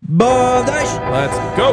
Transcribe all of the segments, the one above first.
Bothesh! Let's go.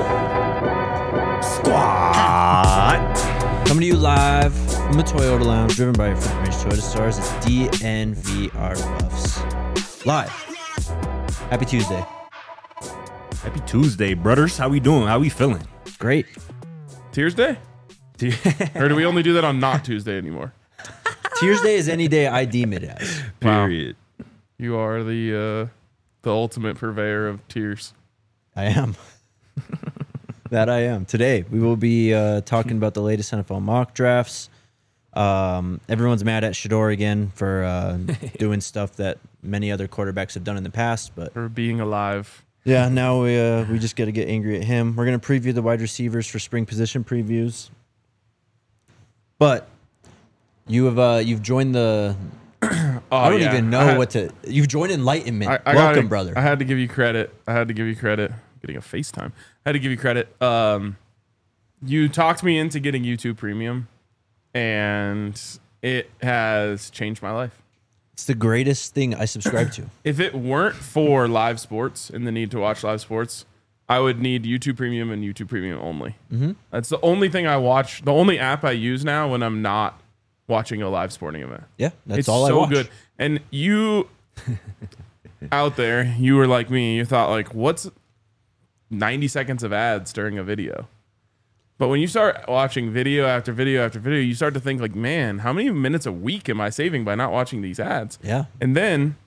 Squat. Coming to you live from the Toyota Lounge, driven by your Front Range Toyota stars. It's DNVR Buffs. Live. Happy Tuesday. Happy Tuesday, brothers. How we doing? How we feeling? Great. Tuesday? Or do we only do that on not Tuesday anymore? Tuesday is any day I deem it as. Period. You are the ultimate purveyor of tears. I am. That I am. Today, we will be talking about the latest NFL mock drafts. Everyone's mad at Shador again for doing stuff that many other quarterbacks have done in the past. But For being alive. yeah, now we just got to get angry at him. We're going to preview the wide receivers for spring position previews. But you've joined the... I don't even know what to... You've joined Enlightenment. Welcome, brother. I had to give you credit. Getting a FaceTime. I had to give you credit. You talked me into getting YouTube Premium, and it has changed my life. It's the greatest thing I subscribe to. If it weren't for live sports and the need to watch live sports, I would need YouTube Premium and YouTube Premium only. Mm-hmm. That's the only thing I watch. The only app I use now when I'm not watching a live sporting event. Yeah, that's It's all I so watch. good. And you out there, you were like me. You thought like, what's 90 seconds of ads during a video? But when you start watching video after video after video, you start to think like, man, how many minutes a week am I saving by not watching these ads? Yeah. And then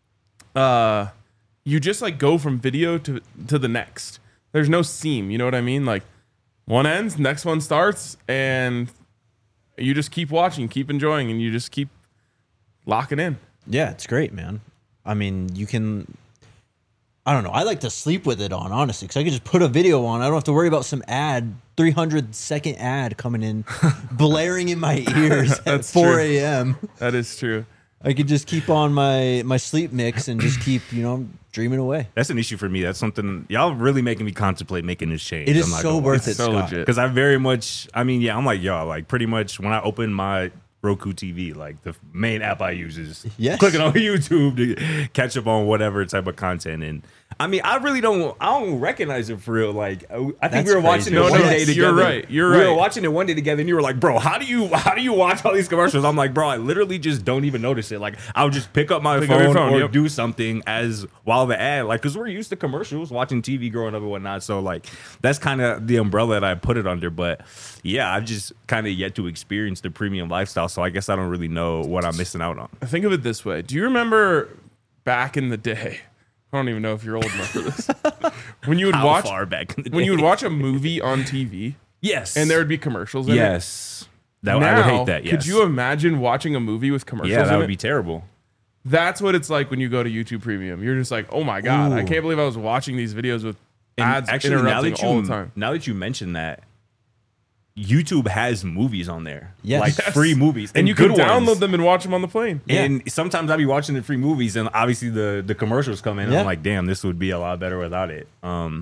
you just like go from video to the next. There's no seam. You know what I mean? Like one ends, next one starts, and you just keep watching, keep enjoying, and you just keep locking in. Yeah, it's great, man. I mean, you can... I don't know. I like to sleep with it on, honestly, because I can just put a video on. I don't have to worry about some ad, 300-second ad coming in, blaring in my ears at 4 a.m. That is true. I could just keep on my sleep mix and just keep, dreaming away. That's an issue for me. That's something y'all really making me contemplate making this change. It is so worth it, so Scott. legit. Because I very much, I'm like, y'all, like pretty much when I open my Roku TV, like the main app I use is clicking on YouTube to catch up on whatever type of content. And I mean, I don't recognize it for real. Like, I think we were watching it one day together. You're We right. were watching it one day together, and you were like, bro, how do you watch all these commercials? I'm like, bro, I literally just don't even notice it. Like, I'll just pick up my phone or do something while the ad, like, because we're used to commercials, watching TV growing up and whatnot. So, like, that's kind of the umbrella that I put it under. But yeah, I've just kind of yet to experience the premium lifestyle. So I guess I don't really know what I'm missing out on. Think of it this way. Do you remember back in the day? I don't even know if you're old enough for this. When you would How far back in the when you would day? watch a movie on TV, Yes. and there would be commercials in it. Yes. I would Now, hate that, yes. could you imagine watching a movie with commercials Yeah, that in would it? be terrible. That's what it's like when you go to YouTube Premium. You're just like, oh my God, I Ooh. can't believe I was watching these videos with And ads actually, interrupting all the time. now that you mention that, YouTube has movies on there. Yes. Like Yes. free movies. And you good can download ones. them and watch them on the plane. And sometimes I'll be watching the free movies, and obviously the commercials come in, and Yeah. I'm like, damn, this would be a lot better without it.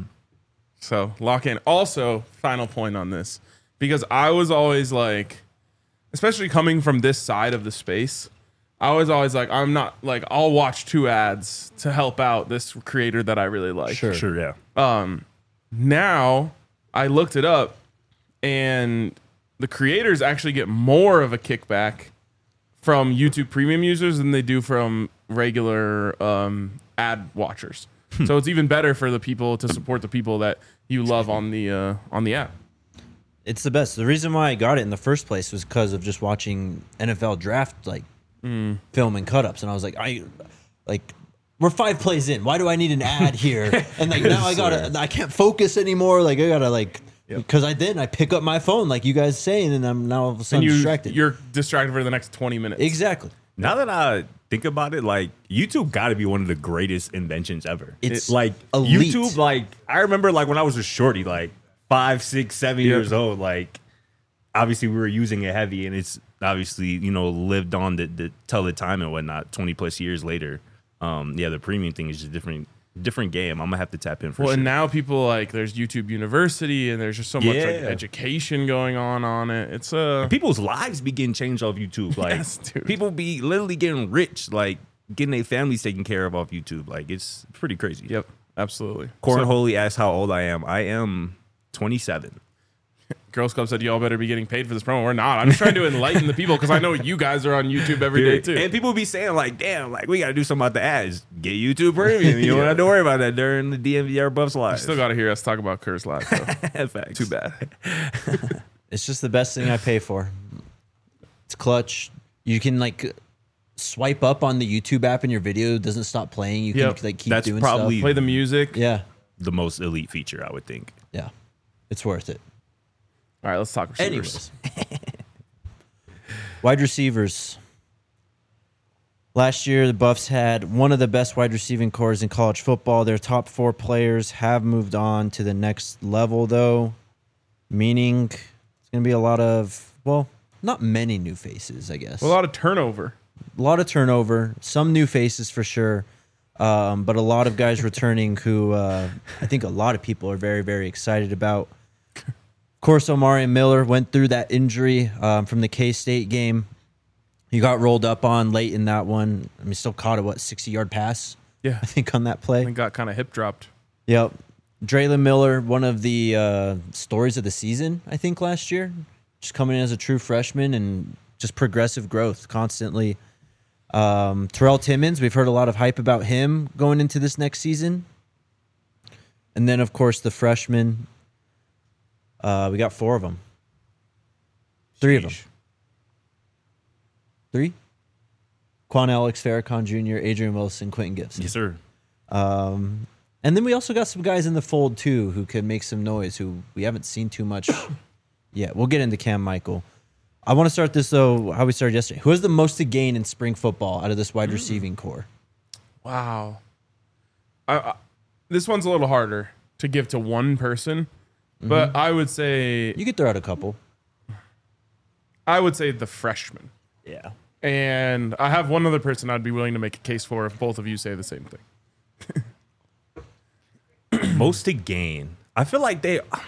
So lock in. Also, final point on this, because I was always like, especially coming from this side of the space, I was always like, I'm not like, I'll watch 2 ads to help out this creator that I really like. Sure. Yeah. Now I looked it up, and the creators actually get more of a kickback from YouTube Premium users than they do from regular ad watchers. So it's even better for the people to support the people that you love on the app. It's the best. The reason why I got it in the first place was because of just watching NFL draft film and cut-ups, and I was like, we're 5 plays in. Why do I need an ad here? And like now I can't focus anymore. Like I gotta because I pick up my phone like you guys saying, and I'm now all of a sudden distracted. You're distracted for the next 20 minutes. Exactly. Now that I think about it, like YouTube got to be one of the greatest inventions ever. It's like elite. YouTube. Like I remember, like when I was a shorty, like 5, 6, 7 years old. Like obviously we were using it heavy, and it's obviously lived on to tell the time and whatnot. 20 plus years later, the premium thing is just different game. I'm gonna have to tap in for sure. And now people like there's YouTube University, and there's just so much like education going on it. It's people's lives be getting changed off YouTube. Like Yes, dude. people be literally getting rich, like getting their families taken care of off YouTube. Like it's pretty crazy. Yep. Absolutely. Cornholy asks how old I am. I am 27. Girls Club said y'all better be getting paid for this promo. We're not. I'm just trying to enlighten the people because I know you guys are on YouTube every day too. And people be saying like, damn, like we got to do something about the ads. Get YouTube Premium. You don't have to worry about that during the DMVR Buffs Live. You still got to hear us talk about Curse Live though. Facts. Too bad. It's just the best thing I pay for. It's clutch. You can like swipe up on the YouTube app and your video doesn't stop playing. You can like keep doing probably stuff. Play the music. Yeah. the most elite feature, I would think. Yeah. It's worth it. All right, let's talk receivers. Anyways. Wide receivers. Last year, the Buffs had one of the best wide receiving cores in college football. Their top 4 players have moved on to the next level, though, meaning it's going to be a lot of, well, not many new faces, I guess. A lot of turnover. A lot of turnover. Some new faces for sure, but a lot of guys returning who I think a lot of people are very, very excited about. Of course, Omari Miller went through that injury from the K-State game. He got rolled up on late in that one. I mean, still caught a, 60-yard pass? Yeah. I think on that play. And got kind of hip dropped. Yep. Draylon Miller, one of the stories of the season, I think, last year. Just coming in as a true freshman and just progressive growth constantly. Terrell Timmons, we've heard a lot of hype about him going into this next season. And then, of course, the freshmen. We got 4 of them. 3 of them. 3? Quan Alex, Farrakhan Jr., Adrian Wilson, Quentin Gibson. Yes, sir. And then we also got some guys in the fold, too, who can make some noise, who we haven't seen too much yet. We'll get into Cam Michael. I want to start this, though, how we started yesterday. Who has the most to gain in spring football out of this wide receiving core? Wow. This one's a little harder to give to one person, but I would say... You could throw out a couple. I would say the freshman. Yeah. And I have one other person I'd be willing to make a case for if both of you say the same thing. Most to gain. I feel like they... It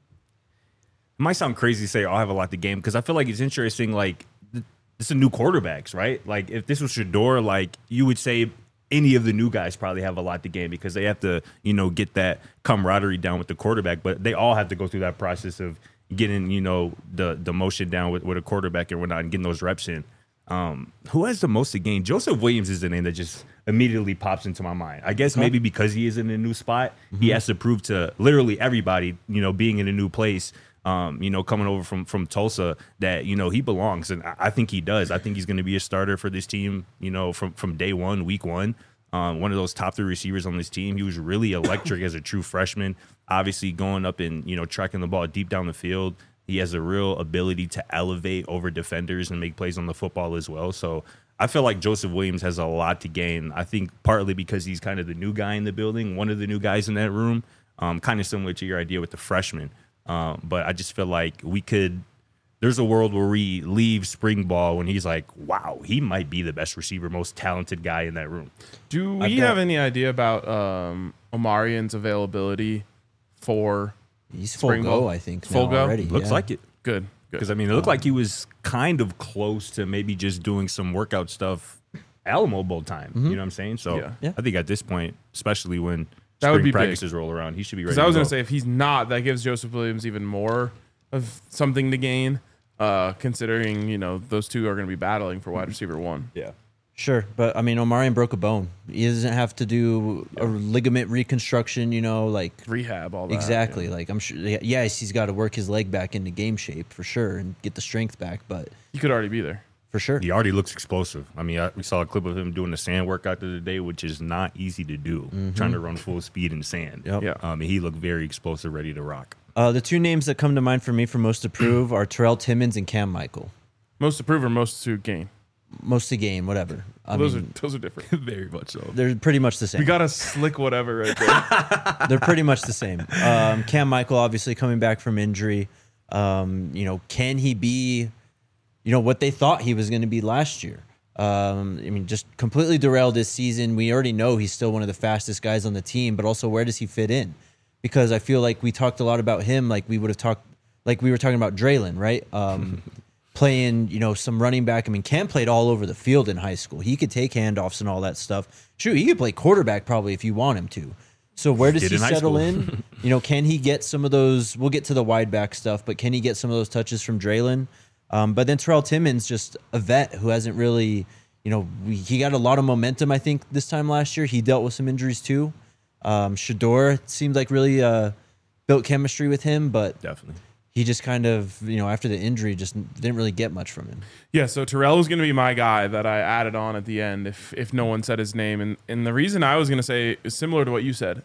might sound crazy to say I have a lot to gain because I feel like it's interesting. Like, this is new quarterbacks, right? Like, if this was Shedeur, like, you would say any of the new guys probably have a lot to gain because they have to, you know, get that camaraderie down with the quarterback. But they all have to go through that process of getting, you know, the motion down with a quarterback and whatnot and getting those reps in. Who has the most to gain? Joseph Williams is the name that just immediately pops into my mind. I guess maybe because he is in a new spot, he has to prove to literally everybody, you know, being in a new place, you know, coming over from Tulsa, that, you know, he belongs. And I think he does. I think he's going to be a starter for this team, you know, from day one, week one. One of those top 3 receivers on this team. He was really electric as a true freshman, obviously going up and, you know, tracking the ball deep down the field. He has a real ability to elevate over defenders and make plays on the football as well. So I feel like Joseph Williams has a lot to gain. I think partly because he's kind of the new guy in the building, one of the new guys in that room, kind of similar to your idea with the freshman. But I just feel like there's a world where we leave spring ball when he's like, wow, he might be the best receiver, most talented guy in that room. Do we have any idea about Omarian's availability for He's full spring go, ball? I think, Full now go? already. Looks like it. Good. Because, I mean, it looked like he was kind of close to maybe just doing some workout stuff Alamo Bowl time. You know what I'm saying? So Yeah. I think at this point, especially when That would spring be practices roll around, he should be ready Because to I was go. going to say, if he's not, that gives Joseph Williams even more of something to gain, considering, you know, those two are going to be battling for wide receiver 1. Yeah. Sure, but I mean, Omarion broke a bone. He doesn't have to do a ligament reconstruction, you know, like Rehab, all that. exactly. yeah. Like I'm sure, yes, he's got to work his leg back into game shape for sure and get the strength back, but He could already be there. for sure, He already looks explosive. I mean, we saw a clip of him doing the sand workout the other day, which is not easy to do, trying to run full speed in sand. Yep. Yeah. And he looked very explosive, ready to rock. The 2 names that come to mind for me for most to prove are Terrell Timmons and Cam Michael. Most to prove or most to gain? Most to gain, whatever. I Those mean, are different. Very much so. they're pretty much the same. We got a slick whatever right there. They're pretty much the same. Cam Michael obviously coming back from injury. You know, can he be, you know, what they thought he was going to be last year? I mean, just completely derailed this season. We already know he's still one of the fastest guys on the team, but also where does he fit in? Because I feel like we talked a lot about him, like we were talking about Draylon, right? Playing, you know, some running back. I mean, Cam played all over the field in high school. He could take handoffs and all that stuff. Shoot, he could play quarterback probably if you want him to. So where does Did he in high settle school. in? Can he get some of those? We'll get to the wide back stuff, but can he get some of those touches from Draylon? But then Terrell Timmons, just a vet who hasn't really, he got a lot of momentum, I think, this time last year. He dealt with some injuries too. Shador seemed like really built chemistry with him, but Definitely. he just kind of, after the injury, just didn't really get much from him. Yeah, so Terrell was going to be my guy that I added on at the end if no one said his name. And the reason I was going to say is similar to what you said.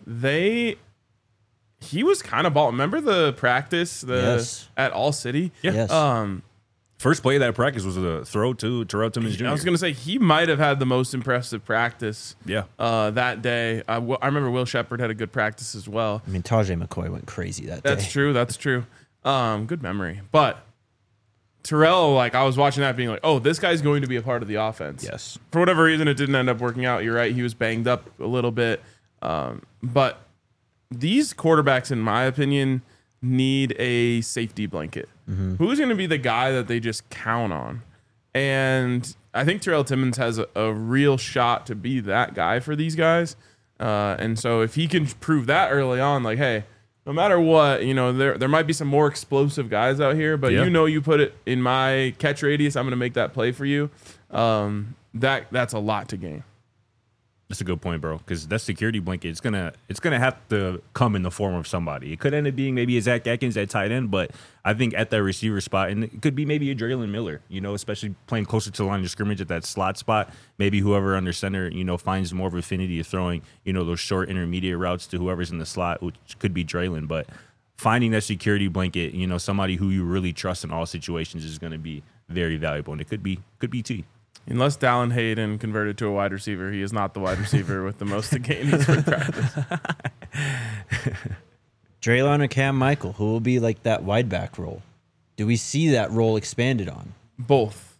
He was kind of ball. Remember the practice Yes. at All City? Yeah. Yes. First play of that practice was a throw to Terrell Timmons Jr. I was going to say he might have had the most impressive practice Yeah. that day. I remember Will Shepherd had a good practice as well. I mean, Tajay McCoy went crazy that day. That's true. Good memory. But Terrell, I was watching that being like, oh, this guy's going to be a part of the offense. Yes. For whatever reason, it didn't end up working out. You're right. He was banged up a little bit. But these quarterbacks, in my opinion, need a safety blanket. Who's going to be the guy that they just count on? And I think Terrell Timmons has a real shot to be that guy for these guys. And so if he can prove that early on, hey, no matter what, there might be some more explosive guys out here, but Yeah. you put it in my catch radius, I'm going to make that play for you. That's a lot to gain. That's a good point, bro. Because that security blanket, it's gonna have to come in the form of somebody. It could end up being maybe a Zach Atkins at tight end, but I think at that receiver spot, and it could be maybe a Draylon Miller. Especially playing closer to the line of scrimmage at that slot spot. Maybe whoever under center, finds more of affinity of throwing, those short intermediate routes to whoever's in the slot, which could be Draylon. But finding that security blanket, somebody who you really trust in all situations is going to be very valuable, and it could be T. Unless Dallin Hayden converted to a wide receiver, he is not the wide receiver with the most to gain in spring practice. Draylon or Cam Michael, who will be that wide back role? Do we see that role expanded on? Both.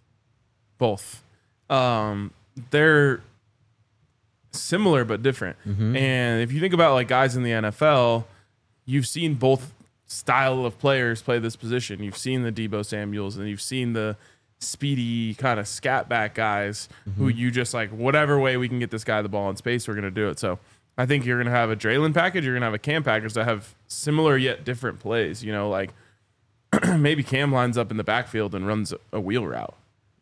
They're similar but different. And if you think about guys in the NFL, you've seen both style of players play this position. You've seen the Deebo Samuels and you've seen the speedy kind of scat back guys who you just whatever way we can get this guy the ball in space, we're going to do it. So I think you're going to have a Draylon package. You're going to have a Cam package that have similar yet different plays. Maybe Cam lines up in the backfield and runs a wheel route.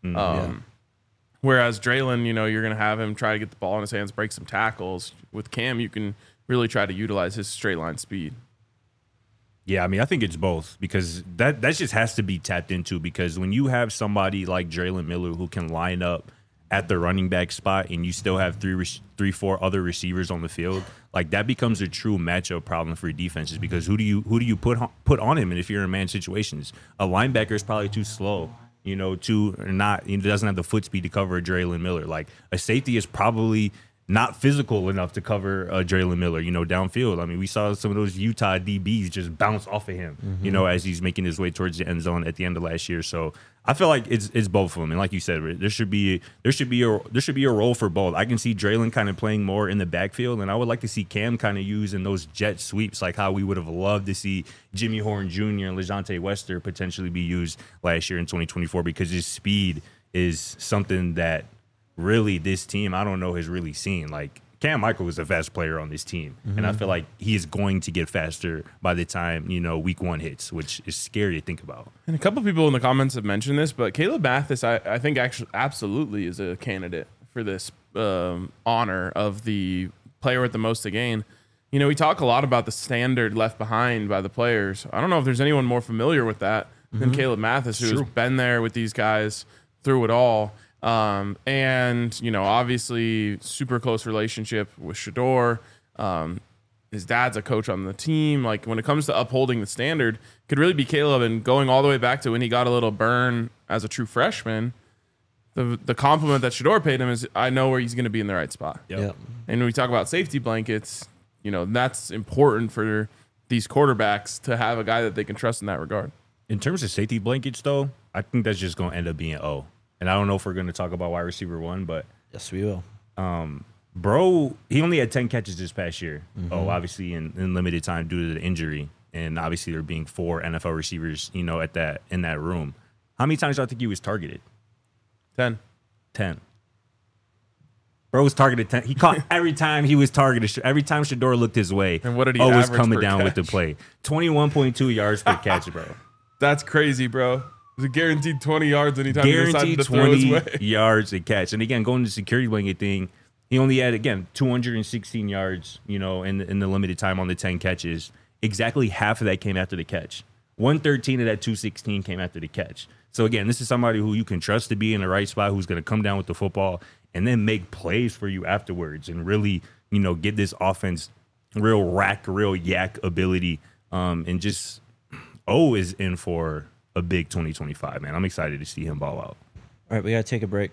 Whereas Draylon, you're going to have him try to get the ball in his hands, break some tackles. With Cam, you can really try to utilize his straight line speed. Yeah, I think it's both because that just has to be tapped into because when you have somebody like Draylon Miller who can line up at the running back spot and you still have three, four other receivers on the field, that becomes a true matchup problem for defenses because who do you put on him? And if you're in man situations, a linebacker is probably too slow, doesn't have the foot speed to cover a Draylon Miller. A safety is probably not physical enough to cover Draylon Miller, downfield. We saw some of those Utah DBs just bounce off of him, as he's making his way towards the end zone at the end of last year. So I feel like it's both of them. And like you said, there should be a role for both. I can see Draylon kind of playing more in the backfield, and I would like to see Cam kind of use in those jet sweeps, like how we would have loved to see Jimmy Horn Jr. and LeJontay Wester potentially be used last year in 2024 because his speed is something that really this team, I don't know, has really seen. Cam Michael is a fast player on this team, and I feel like he is going to get faster by the time, week one hits, which is scary to think about. And a couple people in the comments have mentioned this, but Caleb Mathis, I think actually absolutely is a candidate for this honor of the player with the most to gain. We talk a lot about the standard left behind by the players. I don't know if there's anyone more familiar with that than Caleb Mathis, who's been there with these guys through it all. And obviously super close relationship with Shador. His dad's a coach on the team. When it comes to upholding the standard, could really be Caleb. And going all the way back to when he got a little burn as a true freshman, the compliment that Shador paid him is, I know where he's going to be in the right spot. Yep. And when we talk about safety blankets, that's important for these quarterbacks to have a guy that they can trust in that regard. In terms of safety blankets, though, I think that's just going to end up being O. And I don't know if we're going to talk about wide receiver one, but Yes, we will. bro, he only had 10 catches this past year. Oh, obviously in limited time due to the injury. And obviously there being 4 NFL receivers, in that room. How many times do I think he was targeted? 10. 10. Bro was targeted 10. He caught every time he was targeted. Every time Shedeur looked his way, and what did he was coming down catch? with the play. 21.2 yards per catch, bro. That's crazy, bro. It's a guaranteed 20 yards anytime he decided to throw his way. Yards a catch. And again, going to the security blanket thing, he only had, again, 216 yards, in the limited time on the 10 catches. Exactly half of that came after the catch. 113 of that 216 came after the catch. So again, this is somebody who you can trust to be in the right spot, who's going to come down with the football and then make plays for you afterwards and really, get this offense real yak ability. And just is in for a big 2025, man. I'm excited to see him ball out. All right, we got to take a break.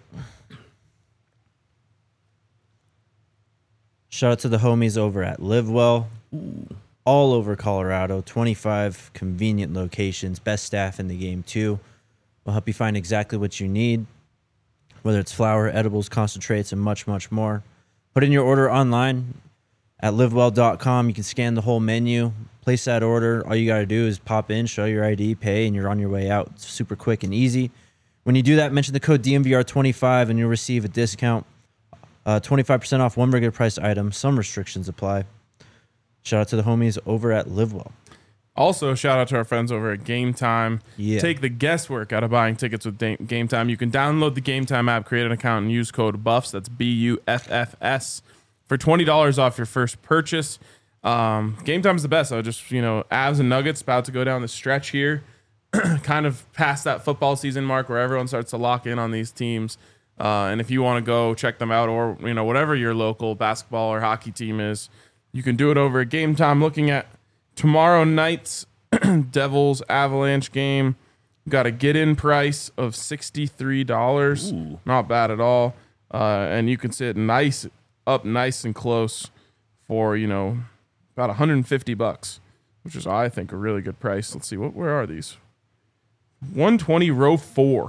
Shout out to the homies over at LiveWell. All over Colorado, 25 convenient locations, best staff in the game too. We'll help you find exactly what you need, whether it's flour, edibles, concentrates, and much, much more. Put in your order online at livewell.com. You can scan the whole menu, place that order. All you got to do is pop in, show your ID, pay, and you're on your way out. It's super quick and easy. When you do that, mention the code DMVR25 and you'll receive a discount. 25% off one regular priced item. Some restrictions apply. Shout out to the homies over at LiveWell. Also, shout out to our friends over at Game Time. Yeah. Take the guesswork out of buying tickets with Game Time. You can download the Game Time app, create an account, and use code BUFFS. That's BUFFS for $20 off your first purchase. Game Time is the best. So just, Avs and Nuggets about to go down the stretch here, kind of past that football season mark where everyone starts to lock in on these teams. And if you want to go check them out or, whatever your local basketball or hockey team is, you can do it over at Game Time. Looking at tomorrow night's Devils Avalanche game, got a get-in price of $63. Ooh. Not bad at all. And you can sit nice and close for, about $150, which is, I think, a really good price. Let's see, where are these? 120 row 4.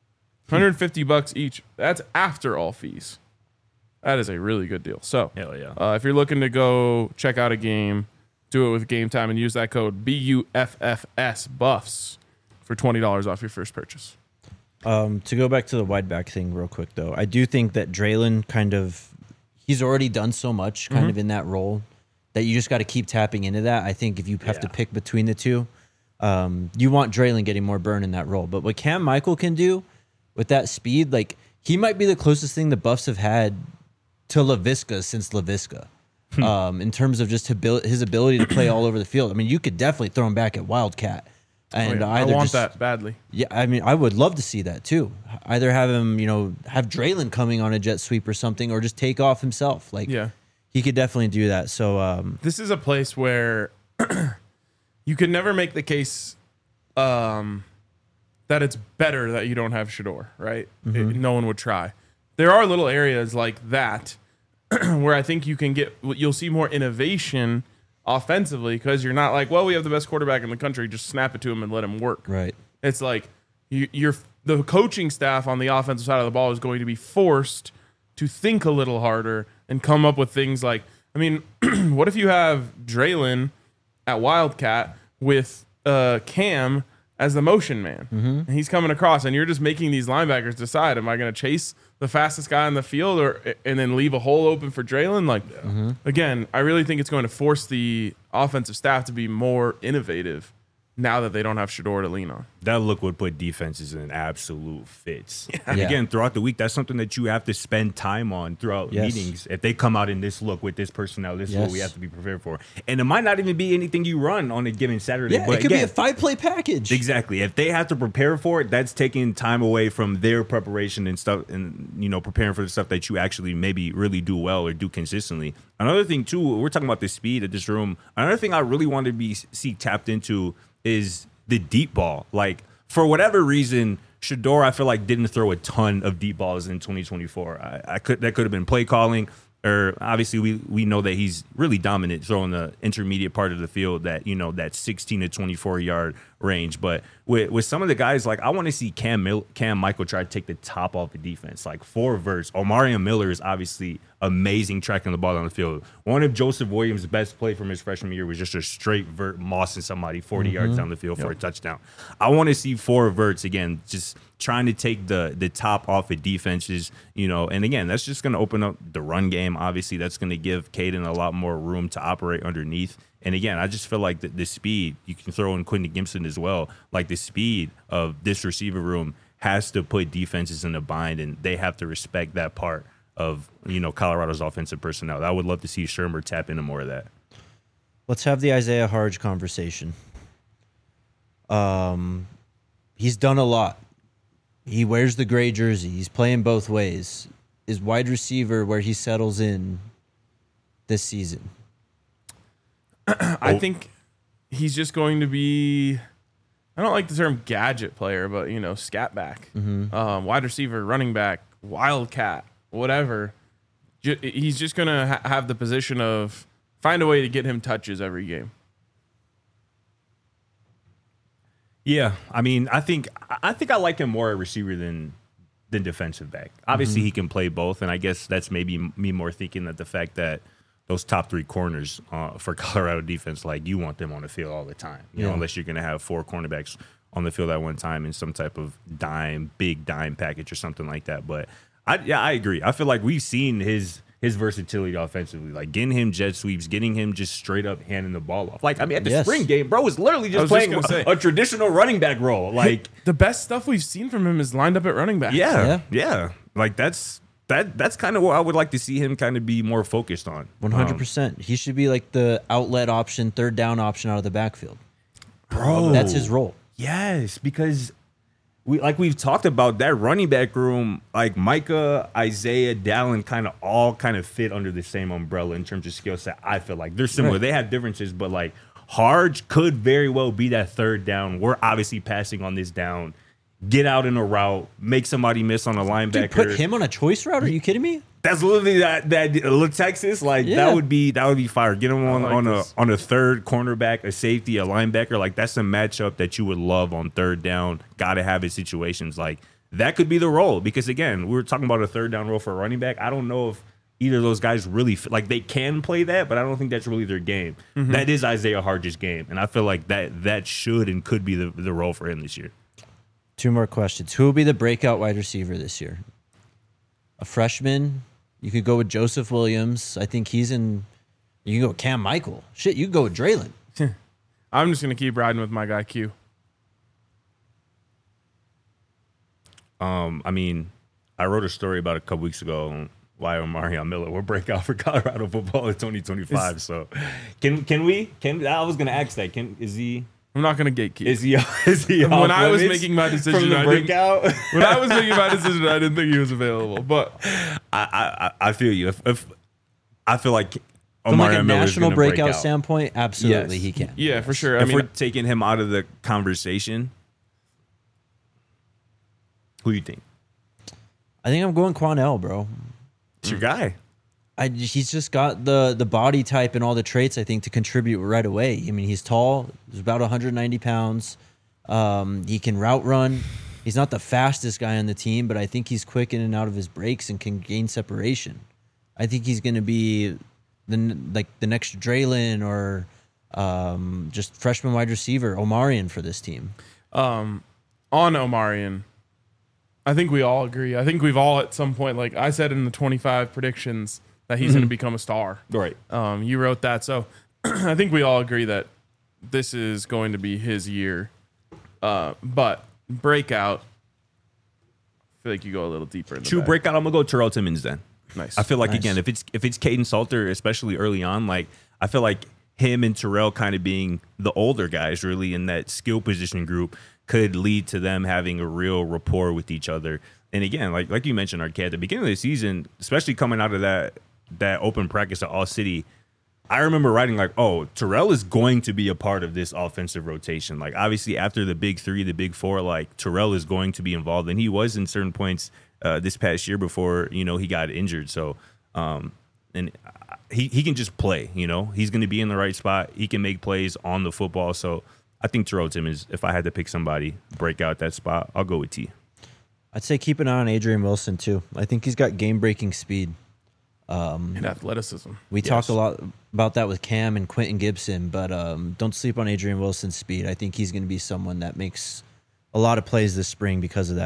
$150 each. That's after all fees. That is a really good deal. So, hell yeah. If you're looking to go check out a game, do it with Game Time and use that code BUFFS BUFFS for $20 off your first purchase. To go back to the wide back thing real quick, though, I do think that Draylon he's already done so much kind of in that role that you just got to keep tapping into that. I think if you have to pick between the two, you want Draylon getting more burn in that role. But what Cam Michael can do with that speed, he might be the closest thing the Buffs have had to LaVisca since LaVisca. In terms of just his ability to play all over the field. I mean, you could definitely throw him back at Wildcat. And I want that badly. Yeah, I mean, I would love to see that too. Either have him, have Draylon coming on a jet sweep or something, or just take off himself. He could definitely do that. So this is a place where you can never make the case that it's better that you don't have Shedeur, right? No one would try. There are little areas like that where I think you'll see more innovation offensively because you're not like, well, we have the best quarterback in the country, just snap it to him and let him work. Right. It's like the coaching staff on the offensive side of the ball is going to be forced to think a little harder and come up with things like, I mean, what if you have Draylon at Wildcat with Cam as the motion man, and he's coming across, and you're just making these linebackers decide: am I going to chase the fastest guy on the field, and then leave a hole open for Draylon? Again, I really think it's going to force the offensive staff to be more innovative now that they don't have Shedeur to lean on. That look would put defenses in absolute fits. And Yeah. again, throughout the week, that's something that you have to spend time on throughout meetings. If they come out in this look with this personnel, this is what we have to be prepared for. And it might not even be anything you run on a given Saturday. Yeah, but it could again, be a 5-play package. Exactly. If they have to prepare for it, that's taking time away from their preparation and stuff, and preparing for the stuff that you actually maybe really do well or do consistently. Another thing too, we're talking about the speed of this room. Another thing I really want to see tapped into is the deep ball. Like, for whatever reason, Shedeur, I feel like, didn't throw a ton of deep balls in 2024. That could have been play calling, or obviously we know that he's really dominant throwing the intermediate part of the field, that that 16 to 24 yard range. But with some of the guys, like, I want to see Cam Michael try to take the top off the defense, like 4 verts. Omarion Miller is obviously amazing tracking the ball on the field. One of Joseph Williams' best play from his freshman year was just a straight vert mossing somebody 40 yards down the field for a touchdown. I want to see 4 verts again, just trying to take the top off of defenses, and again, that's just going to open up the run game. Obviously, that's going to give Caden a lot more room to operate underneath. And again, I just feel like the speed, you can throw in Quentin Gibson as well, like the speed of this receiver room has to put defenses in a bind, and they have to respect that part of, Colorado's offensive personnel. I would love to see Shurmur tap into more of that. Let's have the Isaiah Harge conversation. He's done a lot. He wears the gray jersey. He's playing both ways. Is wide receiver where he settles in this season? I think he's just going to be, I don't like the term gadget player, but, scat back. Wide receiver, running back, wildcat, whatever. He's just going to have the position of find a way to get him touches every game. Yeah, I mean, I think I like him more at receiver than defensive back. Obviously, he can play both, and I guess that's maybe me more thinking that the fact that those top three corners for Colorado defense, like you want them on the field all the time, you know, unless you're going to have four cornerbacks on the field at one time in some type of big dime package or something like that. But I agree. I feel like we've seen his versatility offensively, like getting him jet sweeps, getting him just straight up handing the ball off. Like, I mean, at the spring game, bro was literally just playing a traditional running back role. Like the best stuff we've seen from him is lined up at running back. Yeah. Like that's kind of what I would like to see him kind of be more focused on. 100%. He should be like the outlet option, third down option out of the backfield. Bro, that's his role. Yes, because we've talked about that running back room, like Micah, Isaiah, Dallin all fit under the same umbrella in terms of skill set. I feel like they're similar. Right. They have differences, but like Harge could very well be that third down. We're obviously passing on this down. Get out in a route, make somebody miss on a linebacker. Dude, put him on a choice route? Are you kidding me? That's literally that Texas. That would be fire. Get him on a third cornerback, a safety, a linebacker. Like that's a matchup that you would love on third down. Got to have it situations like that could be the role, because again, we were talking about a third down role for a running back. I don't know if either of those guys really like they can play that, but I don't think that's really their game. Mm-hmm. That is Isaiah Harge's game, and I feel like that should and could be the role for him this year. Two more questions. Who will be the breakout wide receiver this year? A freshman? You could go with Joseph Williams. I think he's in. You can go with Cam Michael. Shit, you can go with Draylon. I'm just going to keep riding with my guy Q. I mean, I wrote a story about a couple weeks ago on why Omarion Miller will break out for Colorado football in 2025. So, can we? I was going to ask that. Is he? I'm not going to gatekeep. Is he? When I was making my decision, I didn't think he was available. But I feel you. If I feel like from like a Miller's national breakout break standpoint, absolutely he can. Yeah, for sure. If we're taking him out of the conversation, who do you think? I think I'm going Quanell, bro. It's your guy. He's just got the body type and all the traits, I think, to contribute right away. I mean, he's tall. He's about 190 pounds. He can route run. He's not the fastest guy on the team, but I think he's quick in and out of his breaks and can gain separation. I think he's going to be the next Draylon or just freshman wide receiver, Omarion, for this team. On Omarion, I think we all agree. I think we've all at some point, like I said in the 25 predictions, that he's going to become a star. Right. You wrote that. So I think we all agree that this is going to be his year. But breakout, I feel like you go a little deeper in the True breakout, I'm going to go Terrell Timmons then. Nice. I feel like, again, if it's Caden Salter, especially early on, like I feel like him and Terrell kind of being the older guys really in that skill position group could lead to them having a real rapport with each other. And again, like you mentioned, Arquette, at the beginning of the season, especially coming out of that open practice at All City, I remember writing like, oh, Terrell is going to be a part of this offensive rotation. Like, obviously, after the big three, the big four, like, Terrell is going to be involved. And he was in certain points this past year before, he got injured. So, and he can just play, He's going to be in the right spot. He can make plays on the football. So, I think Terrell Timmons, if I had to pick somebody, break out that spot, I'll go with T. I'd say keep an eye on Adrian Wilson, too. I think he's got game-breaking speed. And athleticism. We talked a lot about that with Cam and Quentin Gibson, but don't sleep on Adrian Wilson's speed. I think he's going to be someone that makes a lot of plays this spring because of that.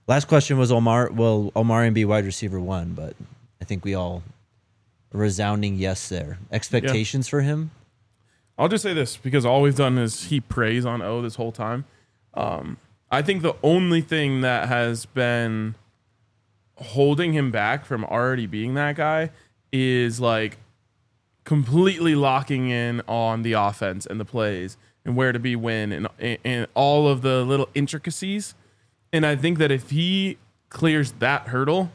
Last question was Omar. Will Omarion be wide receiver 1? But I think we all resounding yes there. Expectations for him? I'll just say this because all we've done is heap praise on O this whole time. I think the only thing that has been holding him back from already being that guy is like completely locking in on the offense and the plays and where to be when and all of the little intricacies. And I think that if he clears that hurdle,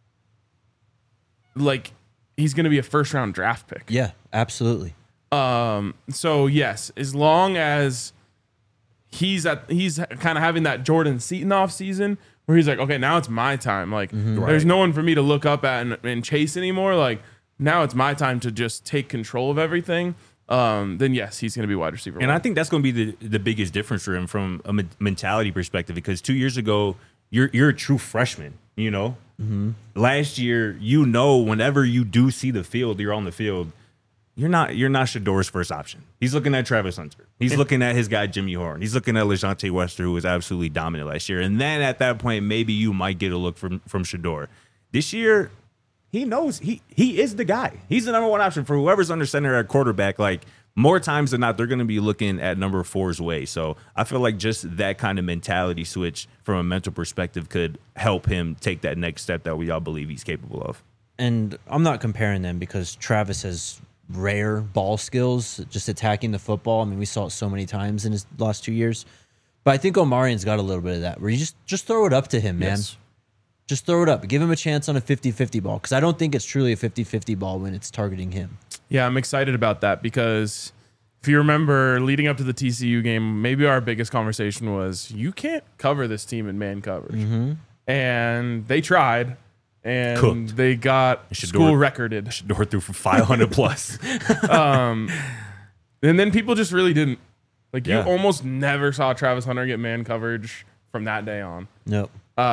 like he's going to be a first-round draft pick. Yeah, absolutely. So yes, as long as he's kind of having that Jordan Seaton off season where he's like, okay, now it's my time. Like there's no one for me to look up at and chase anymore. Like now it's my time to just take control of everything. Then yes, he's going to be wide receiver. And I think that's going to be the biggest difference for him from a mentality perspective, because 2 years ago, you're a true freshman, you know? Mm-hmm. Last year, whenever you do see the field, you're on the field, you're not Shedor's first option. He's looking at Travis Hunter. He's looking at his guy, Jimmy Horn. He's looking at LeJounte Wester, who was absolutely dominant last year. And then at that point, maybe you might get a look from Shedor. This year, he knows he is the guy. He's the number one option for whoever's under center at quarterback. Like more times than not, they're going to be looking at number 4's way. So I feel like just that kind of mentality switch from a mental perspective could help him take that next step that we all believe he's capable of. And I'm not comparing them because Travis has rare ball skills, just attacking the football. I mean, we saw it so many times in his last 2 years. But I think Omarion's got a little bit of that where you just throw it up to him, man. Yes. Just throw it up. Give him a chance on a 50-50 ball because I don't think it's truly a 50-50 ball when it's targeting him. Yeah, I'm excited about that because if you remember leading up to the TCU game, maybe our biggest conversation was you can't cover this team in man coverage. Mm-hmm. And they tried, and Cooked. they got school recorded. Shedor threw for 500 plus. And then people just really didn't. Like, Yeah. you almost never saw Travis Hunter get man coverage from that day on. Nope.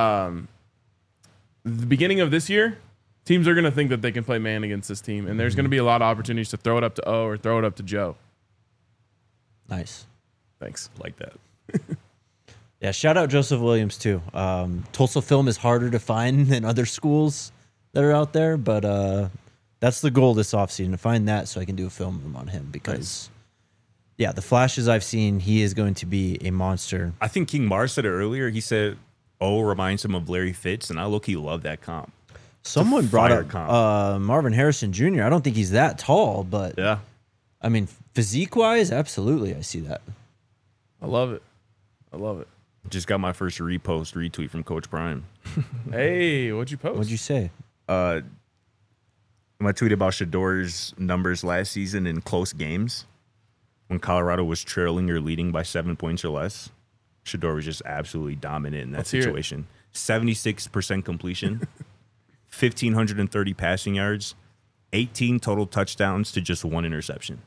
The beginning of this year, teams are going to think that they can play man against this team, and there's going to be a lot of opportunities to throw it up to O or throw it up to Joe. Nice. Thanks. Like that. Yeah, shout out Joseph Williams, too. Tulsa film is harder to find than other schools that are out there, but that's the goal this offseason, to find that so I can do a film on him because, yeah, the flashes I've seen, he is going to be a monster. I think King Mars said it earlier. He said, reminds him of Larry Fitz, and I low-key love that comp. Someone brought fire up comp. Marvin Harrison Jr. I don't think he's that tall, but Yeah. I mean, physique-wise, absolutely, I see that. I love it. I love it. Just got my first retweet from Coach Prime. Hey, what'd you post? What'd you say? My tweet about Shedor's numbers last season in close games when Colorado was trailing or leading by 7 points or less. Shedor was just absolutely dominant in that Let's hear it. situation. 76% completion, 1,530 passing yards, 18 total touchdowns to just 1 interception,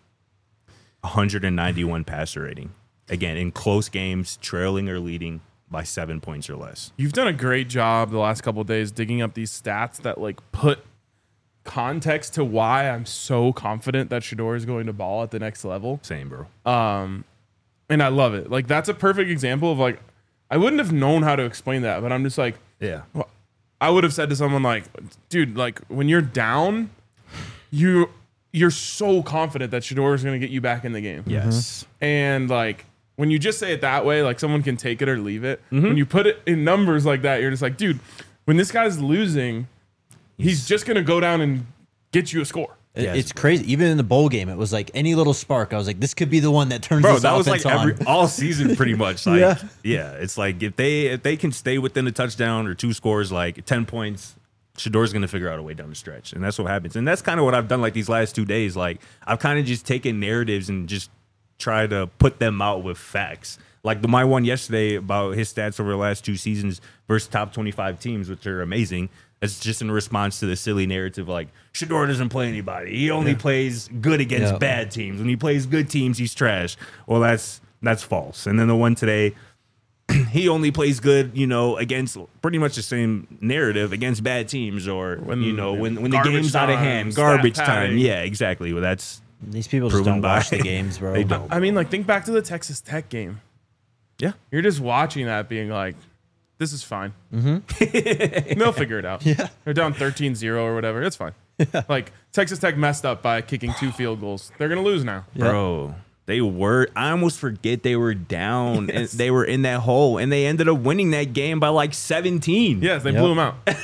191 passer rating. Again, in close games, trailing or leading by 7 points or less. You've done a great job the last couple of days digging up these stats that like put context to why I'm so confident that Shedor is going to ball at the next level. Same, bro. And I love it. Like, that's a perfect example of like, I wouldn't have known how to explain that, but I'm just like, Yeah. I would have said to someone like, dude, like when you're down, you're so confident that Shedor is going to get you back in the game. Yes. And like, when you just say it that way, like someone can take it or leave it. When you put it in numbers like that, you're just like, dude, when this guy's losing, he's just going to go down and get you a score. Yes. It's crazy. Even in the bowl game, it was like any little spark. I was like, this could be the one that turns Bro, this that was offense like on. all season pretty much. Like, Yeah. yeah, it's like if they can stay within a touchdown or 2 scores, like 10 points, Shedor's going to figure out a way down the stretch. And that's what happens. And that's kind of what I've done like these last 2 days. Like I've kind of just taken narratives and just try to put them out with facts. Like my one yesterday about his stats over the last 2 seasons versus top 25 teams, which are amazing. It's just in response to the silly narrative like Shedor doesn't play anybody. He only plays good against bad teams. When he plays good teams, he's trash. Well, that's false. And then the one today, he only plays good, against pretty much the same narrative against bad teams or when the game's out of hand, garbage time. Yeah, exactly. Well, that's These people just don't watch the games, bro. They don't. I mean, like think back to the Texas Tech game. Yeah. You're just watching that being like, this is fine. They'll figure it out. Yeah. They're down 13-0 or whatever. It's fine. Like, Texas Tech messed up by kicking 2 field goals. They're going to lose now. Bro, they were. I almost forget they were down. And they were in that hole, and they ended up winning that game by like 17. Yes, they blew them out. All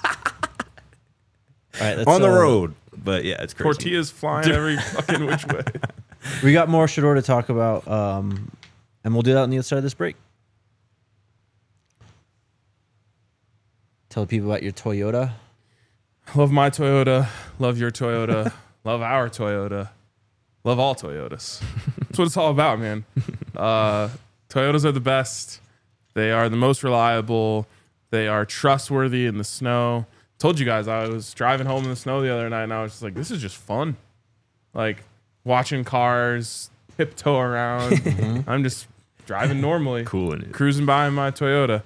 right, let's, On the road. But yeah, it's crazy. Tortillas flying every fucking which way. We got more Shedeur to talk about, and we'll do that on the other side of this break. Tell people about your Toyota. Love my Toyota. Love your Toyota. Love our Toyota. Love all Toyotas. That's what it's all about, man. Toyotas are the best. They are the most reliable. They are trustworthy in the snow. Told you guys I was driving home in the snow the other night, and I was just like, this is just fun. Like, watching cars tiptoe around. I'm just driving normally. Cooling it. Cruising by in my Toyota.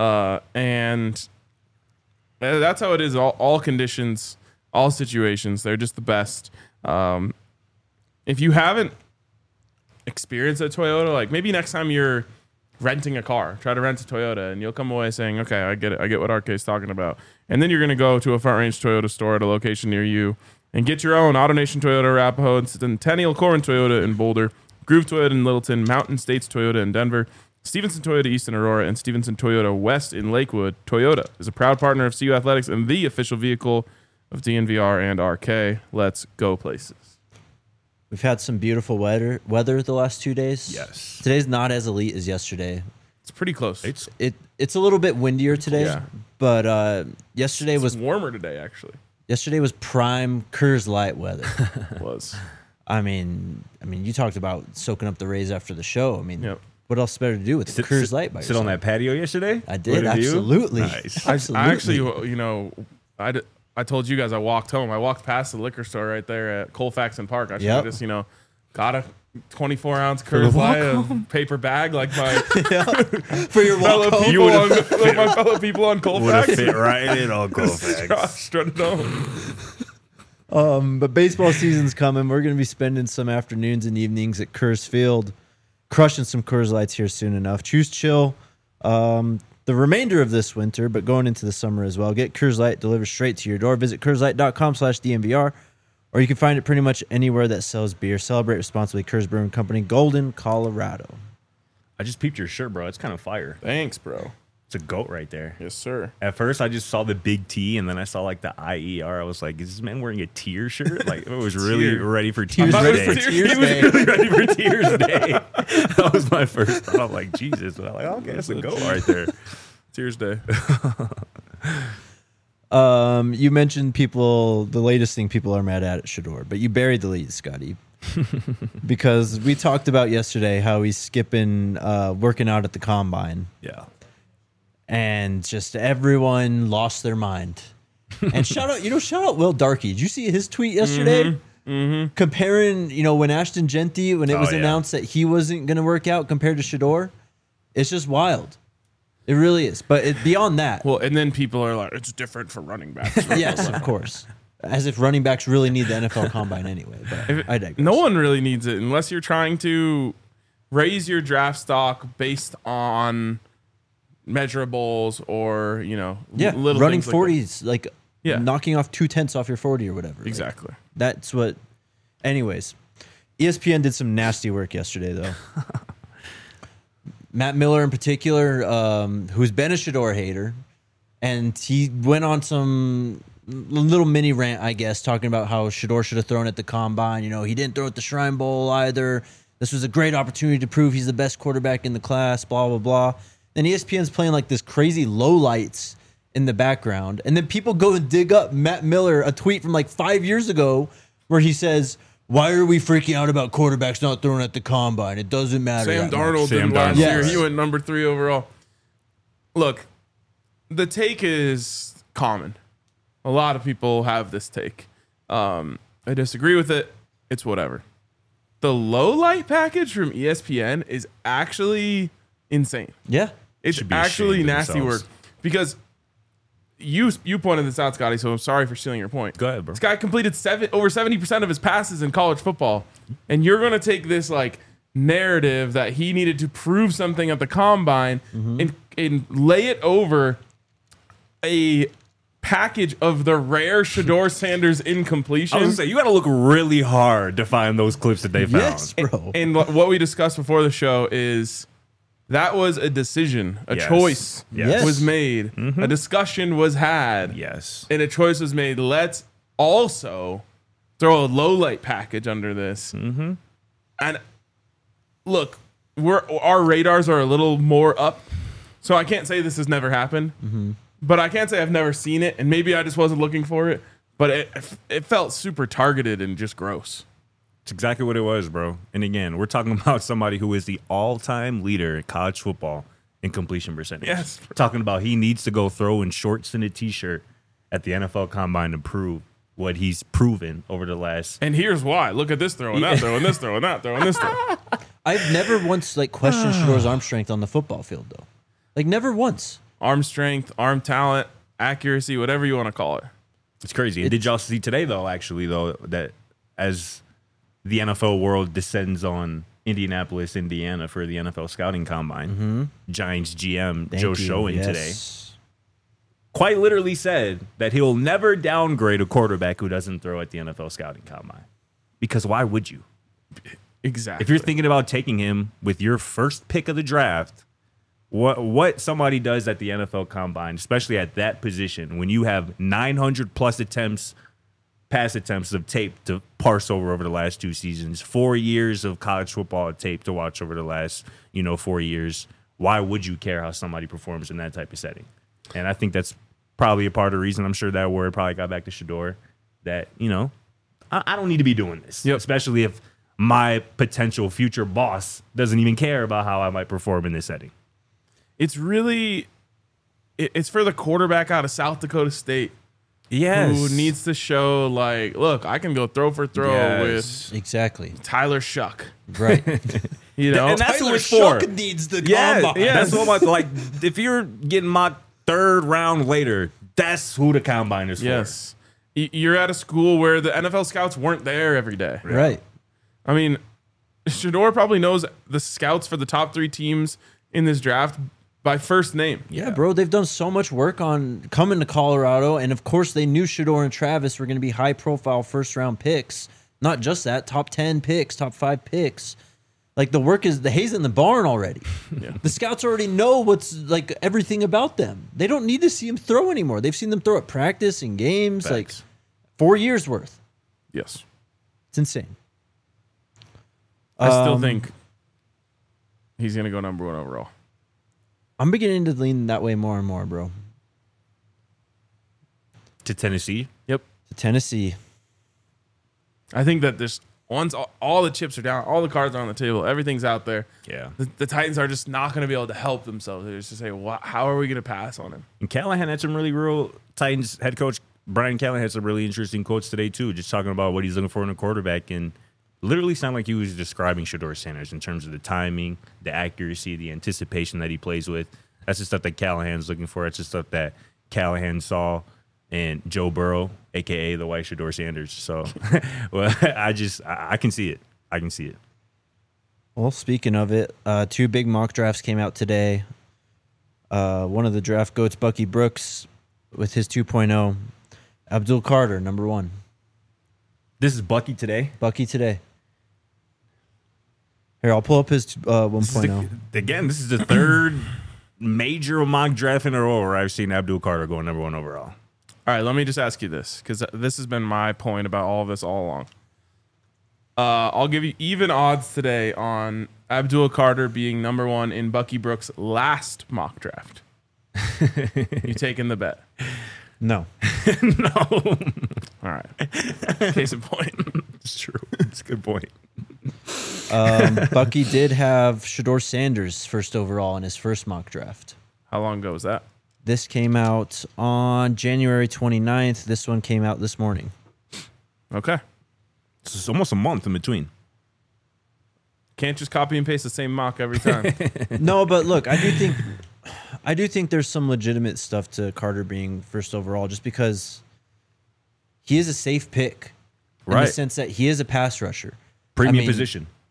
And that's how it is. All conditions, all situations. They're just the best. If you haven't experienced a Toyota, like maybe next time you're renting a car, try to rent a Toyota, and you'll come away saying, okay, I get it. I get what RK's talking about. And then you're going to go to a Front Range Toyota store at a location near you and get your own AutoNation Toyota Arapahoe and Centennial Corin Toyota in Boulder, Groove Toyota in Littleton, Mountain States Toyota in Denver, Stevenson Toyota East in Aurora, and Stevenson Toyota West in Lakewood. Toyota is a proud partner of CU Athletics and the official vehicle of DNVR and RK. Let's go places. We've had some beautiful weather the last 2 days. Yes. Today's not as elite as yesterday. It's pretty close. It's a little bit windier today, Yeah. but yesterday It's was warmer today, actually. prime Coors Light weather. It was. I mean, you talked about soaking up the rays after the show. I mean, Yep. what else better to do with Coors Light by Sit on yourself? that patio yesterday? I did, What you? absolutely. Nice. Absolutely. I actually, I told you guys I walked home. I walked past the liquor store right there at Colfax and Park. I should have just, got a 24-ounce Coors Light, a paper bag like my for your walk home. my fellow people on Colfax. Would have fit right in on Colfax. Strutted home. But baseball season's coming. We're going to be spending some afternoons and evenings at Coors Field, crushing some Coors Lights here soon enough. Choose chill the remainder of this winter, but going into the summer as well. Get Coors Light delivered straight to your door. Visit CoorsLight.com/DNVR, or you can find it pretty much anywhere that sells beer. Celebrate responsibly. Coors Brewing Company, Golden, Colorado. I just peeped your shirt, bro. It's kind of fire. Thanks, bro. It's a goat right there. Yes, sir. At first, I just saw the big T, and then I saw like the IER. I was like, "Is this man wearing a Tears shirt?" Like, it was really ready for Tears Day. Tears He was Day. really ready for Tears Day. That was my first thought. I'm like, Jesus. But I'm like, okay, that's a goat right there. Tears Day. You mentioned the latest thing people are mad at Shedeur, but you buried the lead, Scotty. Because we talked about yesterday how he's skipping working out at the combine. Yeah. And just everyone lost their mind. And shout out Will Darkey. Did you see his tweet yesterday? Comparing, when Ashton Genty, when it was announced that he wasn't going to work out compared to Shedeur, it's just wild. It really is. But beyond that. Well, and then people are like, it's different for running backs. Yes, of course. As if running backs really need the NFL combine anyway. But I digress. No one really needs it unless you're trying to raise your draft stock based on measurables or, little running things 40s, like Yeah. knocking off 2/10 off your 40 or whatever. Like, Exactly. that's what. Anyways, ESPN did some nasty work yesterday, though. Matt Miller, in particular, who's been a Shedeur hater, and he went on some little mini rant, I guess, talking about how Shedeur should have thrown at the combine. He didn't throw at the Shrine Bowl either. This was a great opportunity to prove he's the best quarterback in the class, blah, blah, blah. Then ESPN's playing like this crazy lowlights in the background. And then people go and dig up Matt Miller, a tweet from like 5 years ago where he says, "Why are we freaking out about quarterbacks not throwing at the combine? It doesn't matter." Sam that Darnold much." did last Yes. year. He went number 3 overall. Look, the take is common. A lot of people have this take. I disagree with it. It's whatever. The low light package from ESPN is actually insane. Yeah. It's Should be actually ashamed of nasty work themselves. because you pointed this out, Scotty, so I'm sorry for stealing your point. Go ahead, bro. This guy completed over 70% of his passes in college football, and you're going to take this like narrative that he needed to prove something at the combine and lay it over a package of the rare Shedeur Sanders incompletion. I was gonna say, you got to look really hard to find those clips that they found. Yes, bro. And what we discussed before the show is that was a decision, a choice was made, a discussion was had, and a choice was made. Let's also throw a low light package under this. And look, our radars are a little more up, so I can't say this has never happened, but I can't say I've never seen it, and maybe I just wasn't looking for it. But it felt super targeted and just gross. It's exactly what it was, bro. And again, we're talking about somebody who is the all-time leader in college football in completion percentage. Yes. We're talking about he needs to go throw in shorts and a T-shirt at the NFL Combine to prove what he's proven over the last. And here's why. Look at this throw, and that throw, and this throw, and that throw, and this throw. I've never once questioned Shedeur's arm strength on the football field, though. Never once. Arm strength, arm talent, accuracy, whatever you want to call it. It's crazy. And did y'all see today, though, that as the NFL world descends on Indianapolis, Indiana for the NFL Scouting Combine, Giants GM Joe Schoen today quite literally said that he'll never downgrade a quarterback who doesn't throw at the NFL Scouting Combine. Because why would you? Exactly. If you're thinking about taking him with your first pick of the draft, what somebody does at the NFL Combine, especially at that position, when you have 900 plus pass attempts of tape to parse over the last 2 seasons, 4 years of college football tape to watch over the last 4 years, why would you care how somebody performs in that type of setting? And I think that's probably a part of the reason. I'm sure that word probably got back to Shedeur, that I don't need to be doing this, especially if my potential future boss doesn't even care about how I might perform in this setting. It's really, it's for the quarterback out of South Dakota State. Yes. Who needs to show, look, I can go throw for throw with Tyler Shuck. Right. And that's Tyler what it's for. Shuck needs the combine. Yeah, that's what if you're getting mocked 3rd round later, that's who the combine is for. Yes. You're at a school where the NFL scouts weren't there every day. Right. I mean, Shedeur probably knows the scouts for the top 3 teams in this draft by first name. Yeah, bro. They've done so much work on coming to Colorado. And, of course, they knew Shedeur and Travis were going to be high-profile first-round picks. Not just that, top 10 picks, top 5 picks. The hay's in the barn already. Yeah. The scouts already know what's, everything about them. They don't need to see them throw anymore. They've seen them throw at practice and games, Facts. 4 years worth. Yes. It's insane. I still think he's going to go number 1 overall. I'm beginning to lean that way more and more, bro. To Tennessee? Yep. To Tennessee. I think that once all the chips are down, all the cards are on the table, everything's out there. Yeah. The Titans are just not going to be able to help themselves. They're just to say, how are we going to pass on him? And Callahan had some really real Titans head coach Brian Callahan had some really interesting quotes today too, just talking about what he's looking for in a quarterback, and literally sounded like he was describing Shedeur Sanders in terms of the timing, the accuracy, the anticipation that he plays with. That's the stuff that Callahan's looking for. That's the stuff that Callahan saw in Joe Burrow, a.k.a. the white Shedeur Sanders. So, well, I can see it. I can see it. Well, speaking of it, 2 big mock drafts came out today. One of the draft goats, Bucky Brooks, with his 2.0. Abdul Carter, number 1. This is Bucky today? Bucky today. Here, I'll pull up his 1.0. Again, this is the 3rd major mock draft in a row where I've seen Abdul Carter going number 1 overall. All right, let me just ask you this, because this has been my point about all of this all along. I'll give you even odds today on Abdul Carter being number 1 in Bucky Brooks' last mock draft. You taking the bet? No. No. All right. Case in point. It's true. It's a good point. Bucky did have Shedeur Sanders first overall in his first mock draft. How long ago was that? This came out on January 29th. This one came out this morning. Okay. It's almost a month in between. Can't just copy and paste the same mock every time. No, but look, I do think there's some legitimate stuff to Carter being first overall, just because he is a safe pick, in the sense that he is a pass rusher. Premium position.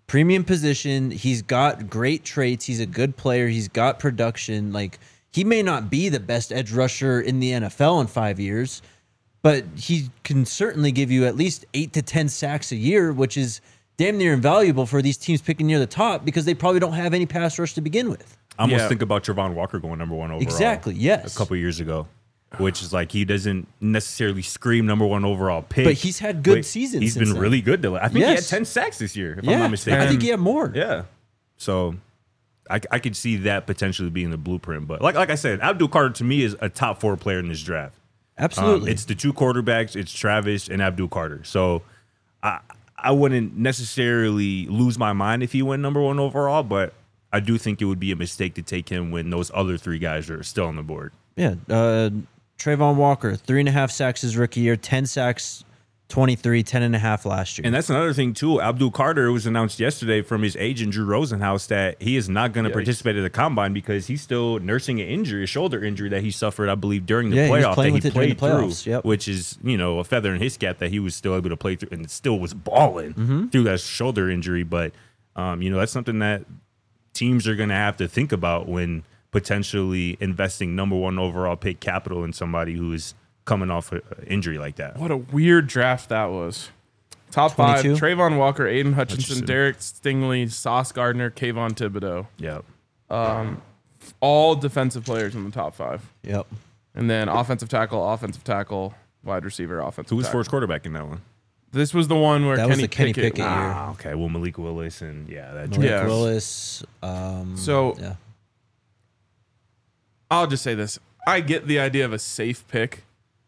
premium position. He's got great traits. He's a good player. He's got production. Like, he may not be the best edge rusher in the NFL in 5 years, but he can certainly give you at least 8 to 10 sacks a year, which is damn near invaluable for these teams picking near the top because they probably don't have any pass rush to begin with. I almost think about Travon Walker going number 1 overall. Exactly, yes. A couple years ago, which is like he doesn't necessarily scream number 1 overall pick. But he's had good seasons. He's been really good, though. I think he had 10 sacks this year, if I'm not mistaken. I think he had more. Yeah. So I could see that potentially being the blueprint. But like I said, Abdul Carter to me is a top 4 player in this draft. Absolutely. It's the 2 quarterbacks. It's Travis and Abdul Carter. So I wouldn't necessarily lose my mind if he went number 1 overall, but I do think it would be a mistake to take him when those other 3 guys are still on the board. Yeah. Trayvon Walker, 3.5 sacks his rookie year, 10 sacks, 23, 10.5 last year. And that's another thing, too. Abdul Carter, it was announced yesterday from his agent, Drew Rosenhaus, that he is not going to participate at the combine because he's still nursing an injury, a shoulder injury that he suffered, I believe, during the playoff that he played through, which is, a feather in his cap that he was still able to play through and still was balling through that shoulder injury. But, that's something that teams are going to have to think about when potentially investing number 1 overall pick capital in somebody who is coming off an injury like that. What a weird draft that was. Top 22? 5, Trayvon Walker, Aiden Hutchinson, Derek Stingley, Sauce Gardner, Kayvon Thibodeau. Yep. All defensive players in the top 5. Yep. And then offensive tackle, wide receiver, offensive Who was tackle. first quarterback in that one? This was the one where That was the Kenny Pickett year. Okay. Well, Malik Willis and that. Malik Willis. So I'll just say this. I get the idea of a safe pick.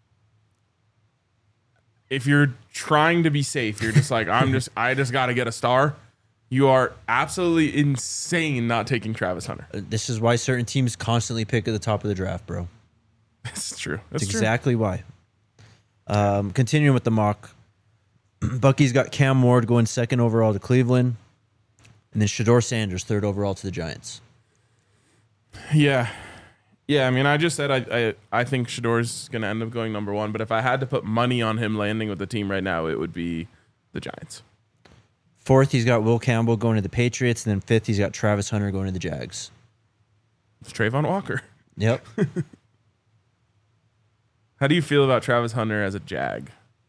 If you're trying to be safe, you're just like, I just got to get a star. You are absolutely insane not taking Travis Hunter. This is why certain teams constantly pick at the top of the draft, bro. That's true. That's exactly why. Continuing with the mock, Bucky's got Cam Ward going 2nd overall to Cleveland, and then Shedeur Sanders 3rd overall to the Giants. Yeah. Yeah, I mean, I just said I think Shedeur's going to end up going number 1, but if I had to put money on him landing with the team right now, it would be the Giants. 4th, he's got Will Campbell going to the Patriots, and then 5th, he's got Travis Hunter going to the Jags. It's Trayvon Walker. Yep. How do you feel about Travis Hunter as a Jag?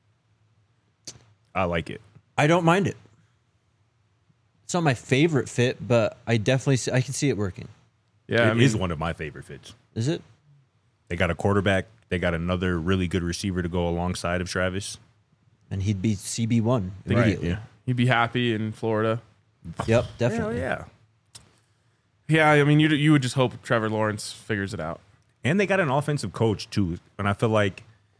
I like it. I don't mind it. It's not my favorite fit, but I can see it working. Yeah, it is one of my favorite fits. Is it? They got a quarterback. They got another really good receiver to go alongside of Travis. And he'd be CB1 immediately. Right, yeah. He'd be happy in Florida. Yep, definitely. Hell yeah. Yeah, I mean, you would just hope Trevor Lawrence figures it out. And they got an offensive coach too, and I feel like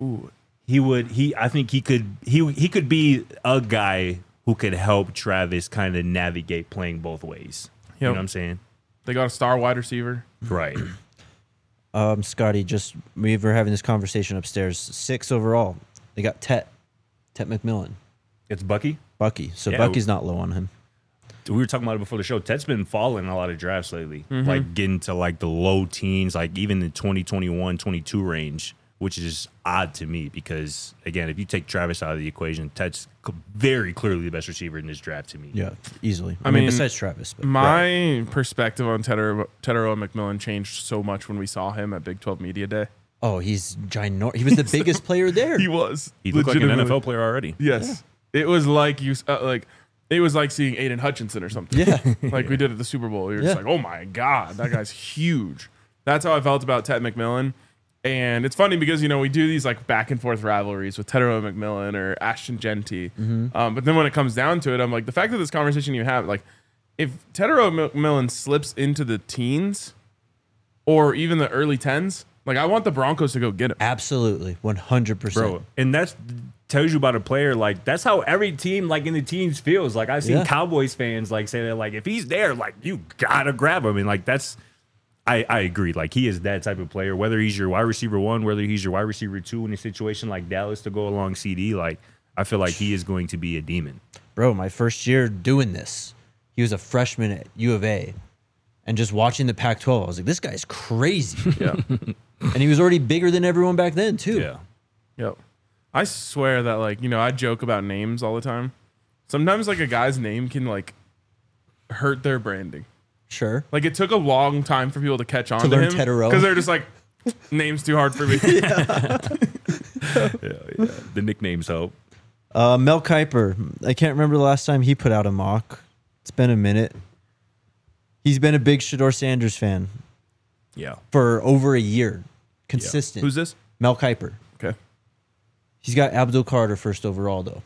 I think he could be a guy who could help Travis kind of navigate playing both ways. Yep. You know what I'm saying? They got a star wide receiver. Right. Scotty, we were having this conversation upstairs. 6 overall. They got Tet McMillan. It's Bucky? Bucky. So Bucky's not low on him. We were talking about it before the show. Tet's been falling in a lot of drafts lately. Like getting to like the low teens, like even the 2021, 22 range, which is odd to me because, again, if you take Travis out of the equation, Tet's very clearly the best receiver in this draft to me. Yeah, easily. I mean, besides Travis. But. My perspective on Tetero McMillan changed so much when we saw him at Big 12 Media Day. Oh, he's ginormous. He was the biggest player there. He was. He looked like an NFL player already. Yes. Yeah. It was like it was like seeing Aiden Hutchinson or something. Yeah. Like we did at the Super Bowl. You're just like, oh my God, that guy's huge. That's how I felt about Tet McMillan. And it's funny because, we do these like back and forth rivalries with Tetero McMillan or Ashton Genty. But then when it comes down to it, I'm like, the fact that this conversation you have, like, if Tetero McMillan slips into the teens or even the early 10s, like, I want the Broncos to go get him. Absolutely. 100%. Bro, and that tells you about a player. Like, that's how every team, like, in the teams feels. Like, I've seen Cowboys fans, like, say that, like, if he's there, like, you gotta grab him. And, like, that's... I agree. Like, he is that type of player. Whether he's your wide receiver 1, whether he's your wide receiver 2 in a situation like Dallas to go along CD, like, I feel like he is going to be a demon. Bro, my first year doing this, he was a freshman at U of A. And just watching the Pac-12, I was like, this guy's crazy. Yeah. And he was already bigger than everyone back then, too. Yeah. Yep. I swear that, like, I joke about names all the time. Sometimes, like, a guy's name can, like, hurt their branding. Sure. Like, it took a long time for people to catch on to learn him Tedero. because they're just like, name's too hard for me. Yeah. The nicknames help. Mel Kiper. I can't remember the last time he put out a mock. It's been a minute. He's been a big Shedeur Sanders fan Yeah. for over a year. Consistent. Who's this? Mel Kiper. Okay. He's got Abdul Carter first overall, though.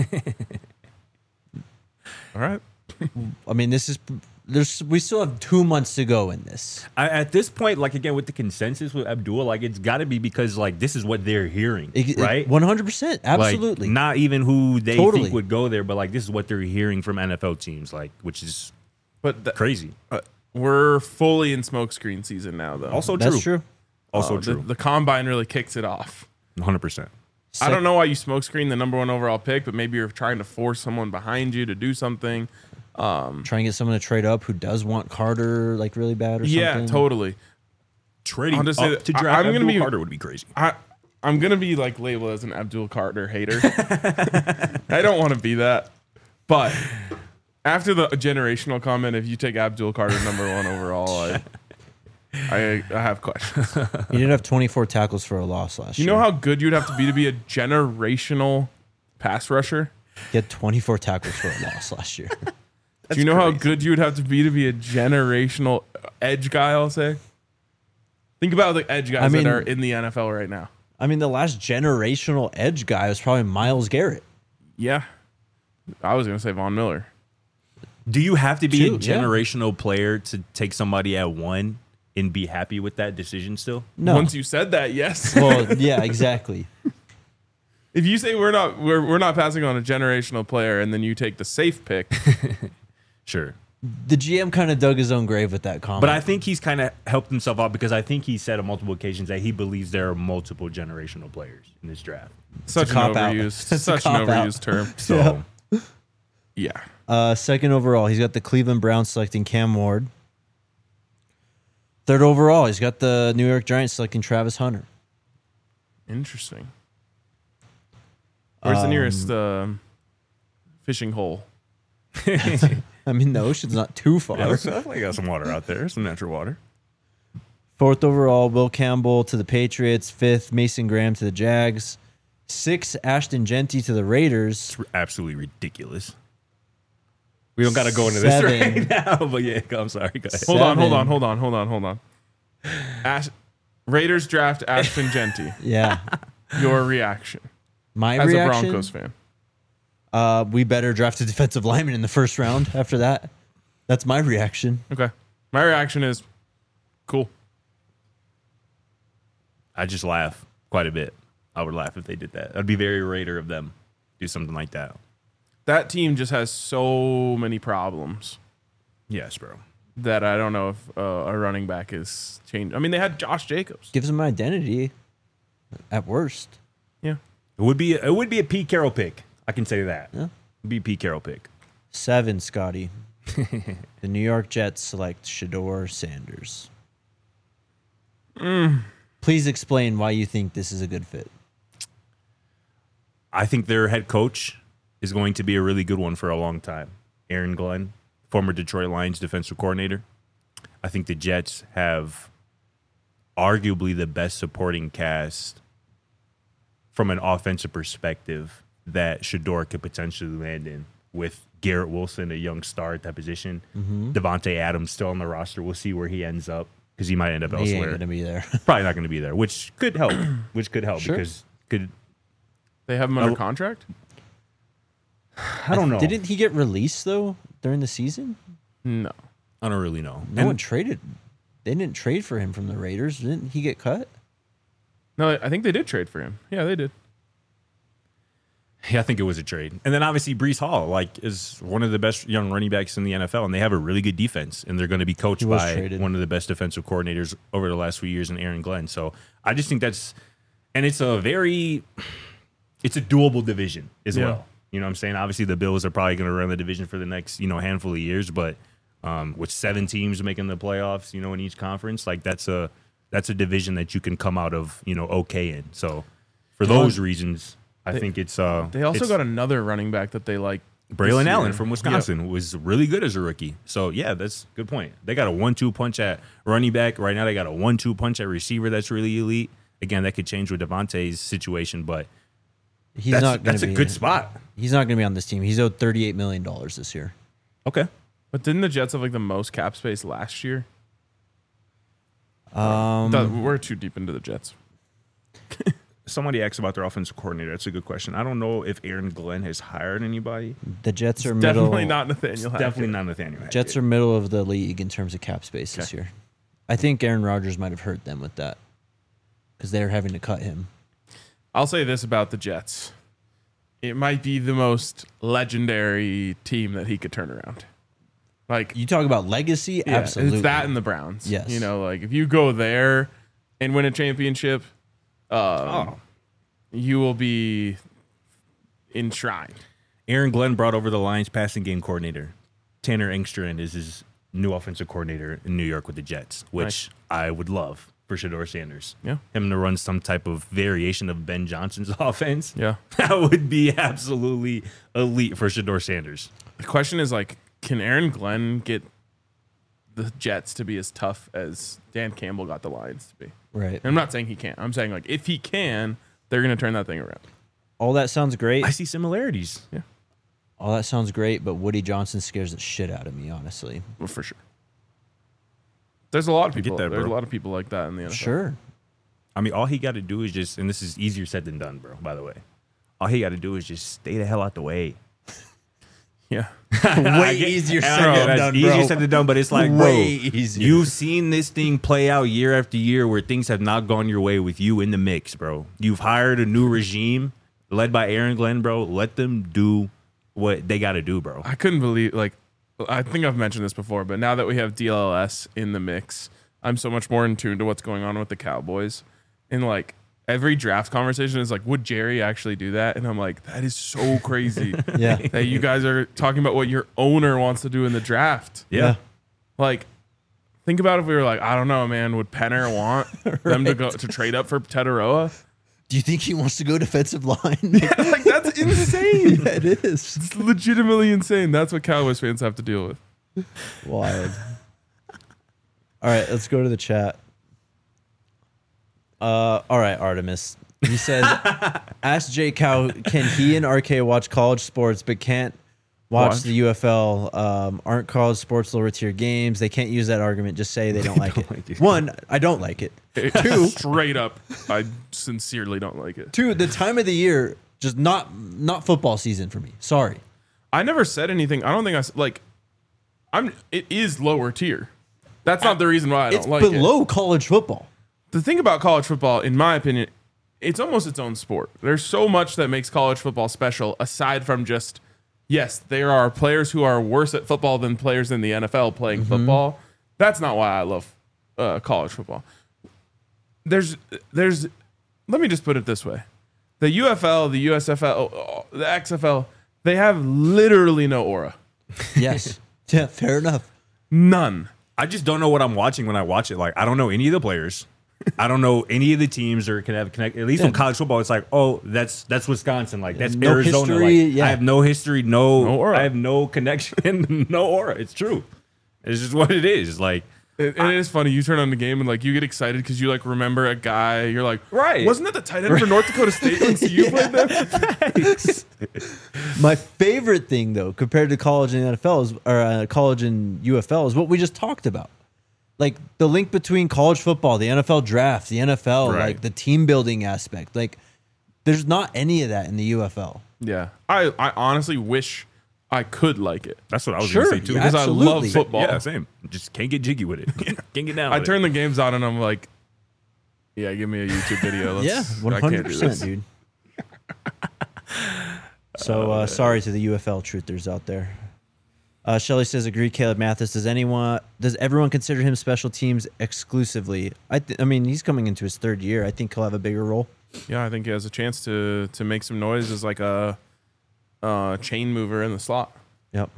All right. I mean, we still have 2 months to go in this. At this point, like, again, with the consensus with Abdul, like, it's got to be because, like, this is what they're hearing, right? 100%. Absolutely. Like, not even who they Totally. think would go there, but, like, this is what they're hearing from NFL teams, like, which is crazy. We're fully in smokescreen season now, though. Also That's true. Also true. The combine really kicks it off. 100%. I don't know why you smokescreen the number 1 overall pick, but maybe you're trying to force someone behind you to do something. Try and get someone to trade up who does want Carter like really bad or something. Yeah, totally. Trading I'll just up say that to draft I'm gonna Abdul be- Carter would be crazy. I'm gonna be like labeled as an Abdul Carter hater. I don't want to be that, but after the generational comment, if you take Abdul Carter number 1 overall, I have questions. He did have 24 tackles for a loss last You year. know how good you'd have to be a generational pass rusher? He had 24 tackles for a loss last year. Do you know how good you would have to be a generational edge guy, I'll say? Think about the edge guys that are in the NFL right now. I mean, the last generational edge guy was probably Myles Garrett. Yeah. I was going to say Von Miller. Do you have to be a True, yeah. generational player to take somebody at 1 and be happy with that decision still? No. Once you said that, yes. Well, yeah, exactly. If you say we're not passing on a generational player and then you take the safe pick, Sure. The GM kind of dug his own grave with that comment. But I think he's kind of helped himself out because I think he said on multiple occasions that he believes there are multiple generational players in this draft. such an cop-out. overused, It's a such an cop-out. overused term. So Yeah. Second overall, he's got the Cleveland Browns selecting Cam Ward. Third overall, he's got the New York Giants selecting Travis Hunter. Interesting. Where's the nearest fishing hole? I mean, the ocean's not too far. I got some water out there, some natural water. Fourth overall, Will Campbell to the Patriots. Fifth, Mason Graham to the Jags. Sixth, Ashton Genty to the Raiders. It's absolutely ridiculous. We don't got to go into this right now, but yeah, I'm sorry. Go ahead. Hold on. Raiders draft Ashton Genty. Yeah. Your reaction My as reaction, a Broncos fan? we better draft a defensive lineman in the first round after that. That's my reaction. Okay. My reaction is cool. I just laugh quite a bit. I would laugh if they did that. I'd be very Raider of them. Do something like that. That team just has so many problems Yes, bro. that I don't know if a running back is changed. I mean, they had Josh Jacobs. Gives him an identity at worst. Yeah. It would be a Pete Carroll pick. I can say that. Yeah. It'd be a Pete Carroll pick. 7, Scotty. The New York Jets select Shedeur Sanders. Please explain why you think this is a good fit. I think their head coach is going to be a really good one for a long time. Aaron Glenn, former Detroit Lions defensive coordinator. I think the Jets have arguably the best supporting cast from an offensive perspective that Shedeur could potentially land in, with Garrett Wilson, a young star at that position. Devontae Adams still on the roster. We'll see where he ends up because he might end up He ain't elsewhere. going to be there. Probably not going to be there, which could help. Sure. Because could They have him under contract? I don't know. Didn't he get released, though, during the season? No. I don't really know. No one traded. They didn't trade for him from the Raiders. Didn't he get cut? No, I think they did trade for him. Yeah, they did. Yeah, I think it was a trade. And then obviously Breece Hall, like, is one of the best young running backs in the NFL, and they have a really good defense, and they're going to be coached was by traded. one of the best defensive coordinators over the last few years in Aaron Glenn. So I just think it's a doable division as well. You know what I'm saying? Obviously the Bills are probably going to run the division for the next, handful of years, but with 7 teams making the playoffs, in each conference, like that's a division that you can come out of, okay in. So for those reasons, I think it's They also got another running back that they like Braylon Allen from Wisconsin was really good as a rookie. So, yeah, that's a good point. They got a 1-2 punch at running back. Right now, they got a 1-2 punch at receiver that's really elite. Again, that could change with Devontae's situation, but that's a good spot. He's not going to be on this team. He's owed $38 million this year. Okay. But didn't the Jets have like the most cap space last year? We're too deep into the Jets. Somebody asked about their offensive coordinator. That's a good question. I don't know if Aaron Glenn has hired anybody. The Jets are definitely not Nathaniel Hackett. Definitely not Nathaniel Hackett. Jets are middle of the league in terms of cap space this year. I think Aaron Rodgers might have hurt them with that because they're having to cut him. I'll say this about the Jets. It might be the most legendary team that he could turn around. Like, you talk about legacy? Yeah, absolutely. It's that and the Browns. Yes. You know, like if you go there and win a championship, you will be enshrined. Aaron Glenn brought over the Lions passing game coordinator. Tanner Engstrand is his new offensive coordinator in New York with the Jets, which I would love for Shedeur Sanders. Yeah. Him to run some type of variation of Ben Johnson's offense. Yeah. That would be absolutely elite for Shedeur Sanders. The question is, like, can Aaron Glenn get the Jets to be as tough as Dan Campbell got the Lions to be? Right. And I'm not saying he can't. I'm saying, like, if he can, they're going to turn that thing around. All that sounds great. I see similarities. Yeah. All that sounds great, but Woody Johnson scares the shit out of me, honestly. Well, for sure. There's a lot of people. There's a lot of people like that in the NFL. Sure. I mean, all he got to do is just, and this is easier said than done, bro, by the way. All he got to do is just stay the hell out the way. Yeah. Way easier said than done, bro. Easier said than done, but it's like, way easier. You've seen this thing play out year after year where things have not gone your way with you in the mix, bro. You've hired a new regime led by Aaron Glenn, bro. Let them do what they got to do, bro. I couldn't believe, like, I think I've mentioned this before, but now that we have DLS in the mix, I'm so much more in tune to what's going on with the Cowboys. And, like, every draft conversation is like, would Jerry actually do that? And I'm like, that is so crazy. Yeah. That you guys are talking about what your owner wants to do in the draft. Yeah. Like, think about if we were like, I don't know, man, would Penner want them to go to trade up for Tetaroa? Do you think he wants to go defensive line? Yeah, like, that's insane. Yeah, it is. It's legitimately insane. That's what Cowboys fans have to deal with. Wild. All right, let's go to the chat. All right, Artemis. He says, ask Jay Cow, can he and RK watch college sports but can't watch the UFL? Aren't college sports lower tier games? They can't use that argument. Just say they don't like it. One, I don't like it. Two, straight up, I sincerely don't like it. Two, the time of the year, just not football season for me. Sorry. I never said anything. I don't think it is lower tier. That's not the reason why I don't like it. It's below college football. The thing about college football, in my opinion, it's almost its own sport. There's so much that makes college football special aside from just, yes, there are players who are worse at football than players in the NFL playing football. That's not why I love college football. There's let me just put it this way. The UFL, the USFL, the XFL, they have literally no aura. Yes. Yeah, fair enough. None. I just don't know what I'm watching when I watch it. Like, I don't know any of the players. I don't know any of the teams or can have connect. At least in college football, it's like, oh, that's Wisconsin. Like, that's no Arizona. History, like, yeah. I have no history, no aura. I have no connection, no aura. It's true. It's just what it is. Like, it is funny. You turn on the game and like you get excited because you like remember a guy. You're like, right? Wasn't that the tight end for North Dakota State when CU played there? My favorite thing though, compared to college and NFL is, or college and UFL, is what we just talked about. Like the link between college football, the NFL draft, the NFL, Right. like the team building aspect. Like, there's not any of that in the UFL. Yeah, I honestly wish I could like it. That's what I was Sure, going to say too. yeah, Because I love absolutely. football. Yeah, same. Just can't get jiggy with it. Can't get down. I with turn it. the games on and I'm like, yeah, give me a YouTube video. Yeah, I can't do 100%, this. dude. So sorry to the UFL truthers out there. Shelly says, agree, Caleb Mathis. Does everyone consider him special teams exclusively? I mean, he's coming into his third year. I think he'll have a bigger role. Yeah, I think he has a chance to make some noise as like a chain mover in the slot. Yep.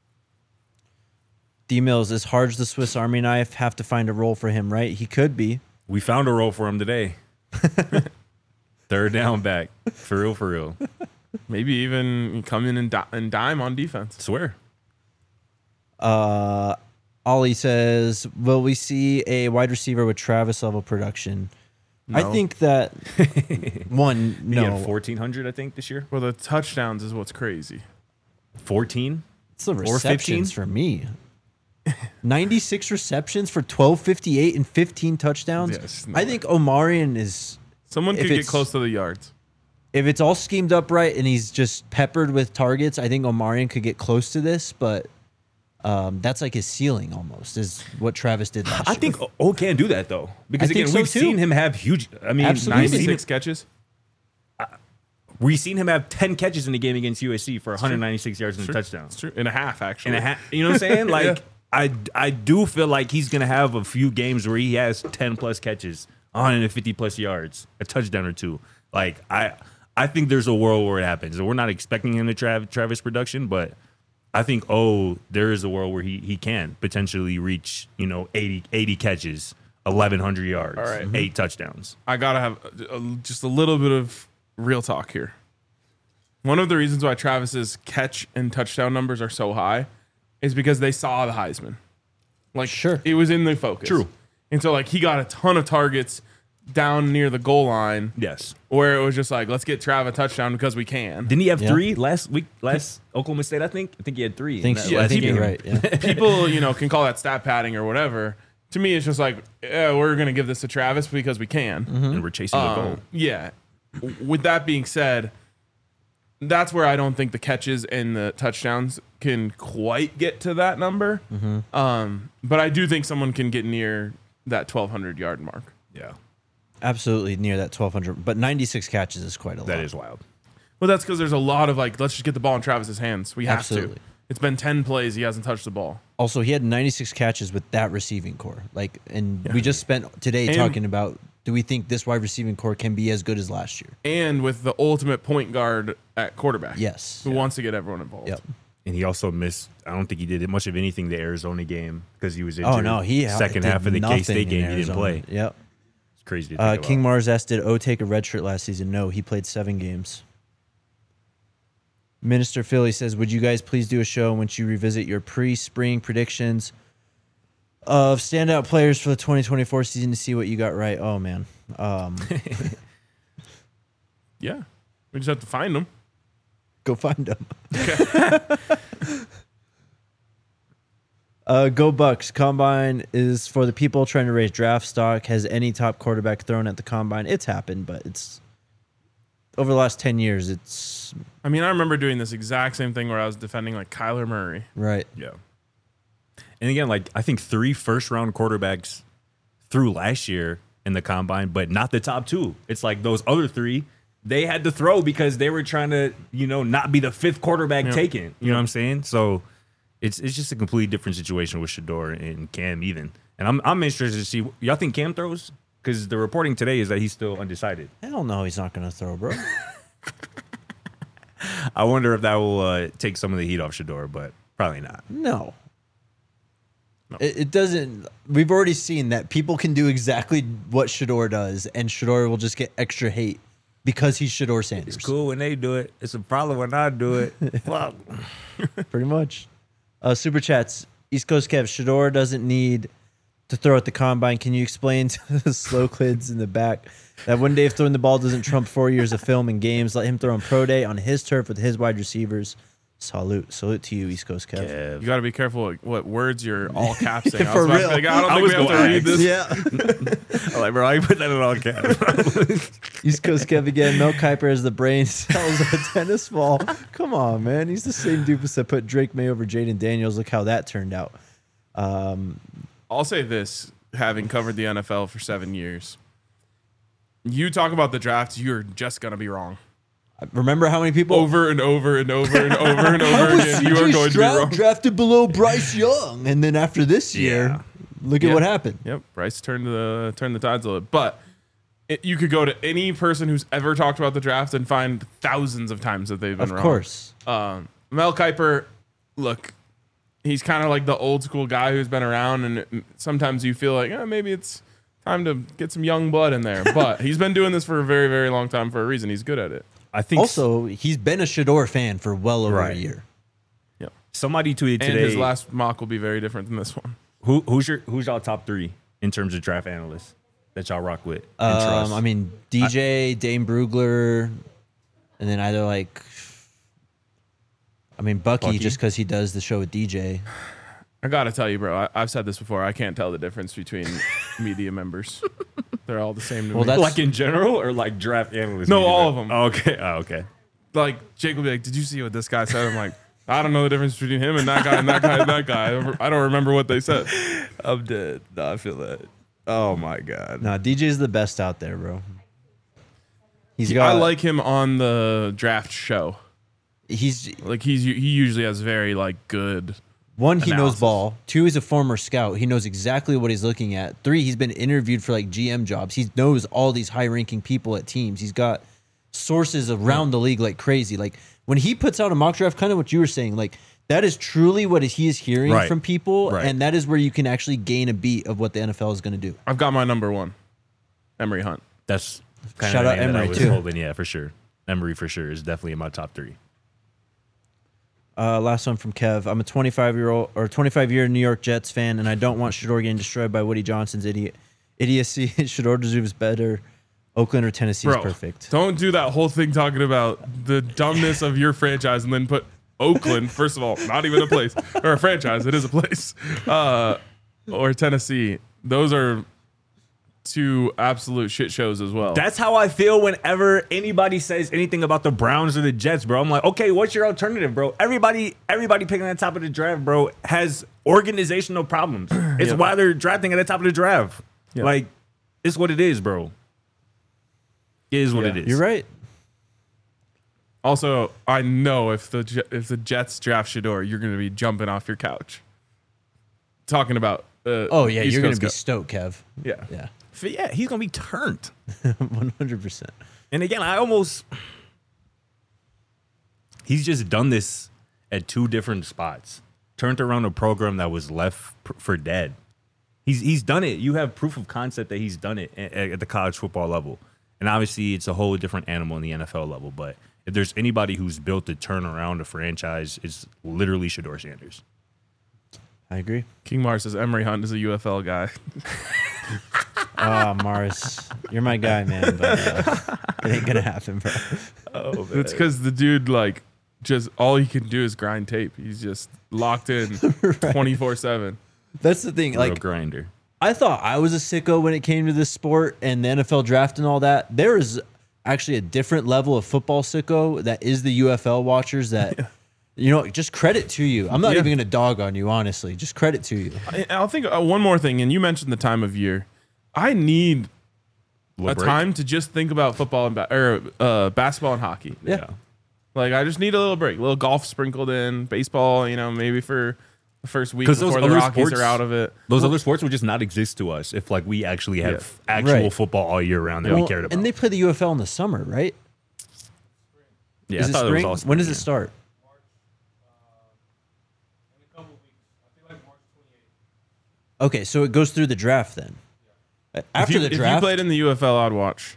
D-Mills, is Harge the Swiss Army knife? Have to find a role for him, right? He could be. We found a role for him today. Third down back. For real, for real. Maybe even come in and dime on defense. Swear. Ollie says, will we see a wide receiver with Travis level production? No. I think that one, He no. had 1,400, I think, this year. Well, the touchdowns is what's crazy. 14? It's the Or 15? receptions for me. 96 receptions for 1258 and 15 touchdowns. Yes, no I think Omarion is, Someone If could get it's- close to the yards. if it's all schemed up right and he's just peppered with targets, I think Omarion could get close to this, but that's like his ceiling almost, is what Travis did last I year. think O can do that, though. Because, I think again, so, we've too. seen him have huge. I mean, Absolutely. we've seen, 96 catches. we've seen him have 10 catches in the game against USC for 196 yards and a touchdown. It's true. And a half, actually. And a half. You know what I'm saying? Like, I do feel like he's going to have a few games where he has 10-plus catches, 150-plus yards, a touchdown or two. Like, I think there's a world where it happens. We're not expecting him to Travis production, but I think, there is a world where he can potentially reach, 80 catches, 1,100 yards, All right. 8 touchdowns. I got to have just a little bit of real talk here. One of the reasons why Travis's catch and touchdown numbers are so high is because they saw the Heisman. Like, Sure. it was in the focus. True. And so, like, he got a ton of targets down near the goal line Yes. where it was just like, let's get Trav a touchdown because we can. Didn't he have Yeah. 3 last Oklahoma State, I think? I think he had 3. I think, in that I last think game. you're right. Yeah. People, can call that stat padding or whatever. To me, it's just like, yeah, we're going to give this to Travis because we can. And we're chasing the goal. Yeah. With that being said, that's where I don't think the catches and the touchdowns can quite get to that number. But I do think someone can get near that 1,200 yard mark. Yeah. Absolutely near that 1,200, but 96 catches is quite a lot. That is wild. Well, that's because there's a lot of let's just get the ball in Travis's hands. We have Absolutely. to. It's been 10 plays. He hasn't touched the ball. Also, he had 96 catches with that receiving core. We just spent today And- talking about, do we think this wide receiving core can be as good as last year? And with the ultimate point guard at quarterback. Yes. Who wants to get everyone involved. Yep. And he also missed, I don't think he did much of anything the Arizona game because he was injured. Oh, no. He second did half of the nothing K-State in game, he didn't Arizona. play. Yep. It's crazy to think King about. Mars asked, did O take a red shirt last season? No, he played 7 games. Minister Philly says, would you guys please do a show in which you revisit your pre-spring predictions of standout players for the 2024 season to see what you got right? Oh, man. Yeah. We just have to find them. Go find them. Go Bucks. Combine is for the people trying to raise draft stock. Has any top quarterback thrown at the combine? It's happened, but it's over the last 10 years. It's I mean, I remember doing this exact same thing where I was defending Kyler Murray. right. Yeah. And again, I think 3 first-round quarterbacks threw last year in the combine, but not the top 2. It's like those other 3, they had to throw because they were trying to, not be the 5th quarterback taken. You know what I'm saying? So it's just a completely different situation with Shador and Cam even. And I'm interested to see, y'all think Cam throws? Because the reporting today is that he's still undecided. Hell no, he's not going to throw, bro. I wonder if that will take some of the heat off Shador, but probably not. No. It doesn't. We've already seen that people can do exactly what Shador does, and Shador will just get extra hate because he's Shador Sanders. It's cool when they do it. It's a problem when I do it. Fuck. Pretty much. Super chats. East Coast Kev, Shador doesn't need to throw at the combine. Can you explain to the slow kids in the back that one day if throwing the ball doesn't trump 4 years of film and games, let him throw on pro day on his turf with his wide receivers. Salute to you, East Coast Kev. You got to be careful what words you're all capsing. For real. I don't think we have to read this. Yeah. I'm like, bro, I put that in all caps. East Coast Kev again. Mel Kiper as the brain cells of a tennis ball. Come on, man. He's the same doofus that put Drake May over Jaden Daniels. Look how that turned out. I'll say this, having covered the NFL for 7 years. You talk about the draft, you're just going to be wrong. Remember how many people Over and over and over and over and over again. You are going to be wrong. drafted below Bryce Young, and then after this year, Yeah. look at what happened. Yep, Bryce turned the tides a little bit. But you could go to any person who's ever talked about the draft and find thousands of times that they've been wrong. Of course. Mel Kiper, look, he's kind of like the old school guy who's been around, and sometimes you feel like maybe it's time to get some young blood in there. But he's been doing this for a very, very long time for a reason. He's good at it. I think also he's been a Shedeur fan for well over a year. Yep. Somebody tweeted today. And his last mock will be very different than this one. Who's y'all top 3 in terms of draft analysts that y'all rock with? And trust? I mean, DJ, Dane Brugler, and then either like, I mean, Bucky. Just because he does the show with DJ. I gotta tell you, bro. I've said this before. I can't tell the difference between media members. They're all the same to me. That's like in general or like draft analysts? No, all of them. Oh, okay. Okay. Like Jake will be like, "Did you see what this guy said?" I'm like, "I don't know the difference between him and that guy and that guy and that guy. I don't remember what they said." I'm dead. No, I feel that. Oh my god. No, DJ's the best out there, bro. I like him on the draft show. He usually has very like good. One, he analysis. knows ball. 2, he's a former scout. He knows exactly what he's looking at. 3, he's been interviewed for like GM jobs. He knows all these high-ranking people at teams. He's got sources around the league like crazy. Like when he puts out a mock draft, kind of what you were saying, like that is truly what he is hearing from people, and that is where you can actually gain a beat of what the NFL is going to do. I've got my number 1, Emory Hunt. That's kind shout of out Emory too. Holding, yeah, for sure. Emory for sure is definitely in my top 3. Last one from Kev. I'm a 25-year New York Jets fan, and I don't want Shedeur getting destroyed by Woody Johnson's idiocy. Shedeur deserves better. Oakland or Tennessee is perfect. Don't do that whole thing talking about the dumbness of your franchise and then put Oakland, first of all, not even a place, or a franchise. It is a place. Or Tennessee. Those are 2 absolute shit shows as well. That's how I feel whenever anybody says anything about the Browns or the Jets, bro. I'm like, okay, what's your alternative, bro? Everybody picking at the top of the draft, bro, has organizational problems. It's why they're drafting at the top of the draft. Yep. Like, it's what it is, bro. It is what it is. You're right. Also, I know if the Jets draft Shedeur, you're going to be jumping off your couch. Talking about you're going to be stoked, Kev. Yeah. Yeah, he's going to be turned. 100%. And again, he's just done this at 2 different spots. Turned around a program that was left for dead. He's done it. You have proof of concept that he's done it at the college football level. And obviously, it's a whole different animal in the NFL level. But if there's anybody who's built to turn around a franchise, it's literally Shedeur Sanders. I agree. King Mars says Emory Hunt is a UFL guy. Oh, Mars, you're my guy, man. But it ain't gonna happen, bro. Oh, it's because the dude like just all he can do is grind tape. He's just locked in 24/7. That's the thing. Real Like grinder. I thought I was a sicko when it came to this sport and the NFL draft and all that. There is actually a different level of football sicko that is the UFL watchers that. You know, just credit to you. I'm not even going to dog on you, honestly. Just credit to you. I'll think one more thing, and you mentioned the time of year. I need a time to just think about football and basketball and hockey. Yeah. Like, I just need a little break. A little golf sprinkled in, baseball, maybe for the first week before the Rockies are out of it. Those other sports would just not exist to us if, like, we actually have actual football all year round that we cared about. And they play the UFL in the summer, right? Yeah, is it spring? When does it start? Okay, so it goes through the draft then. After the draft, if you played in the UFL, I'd watch.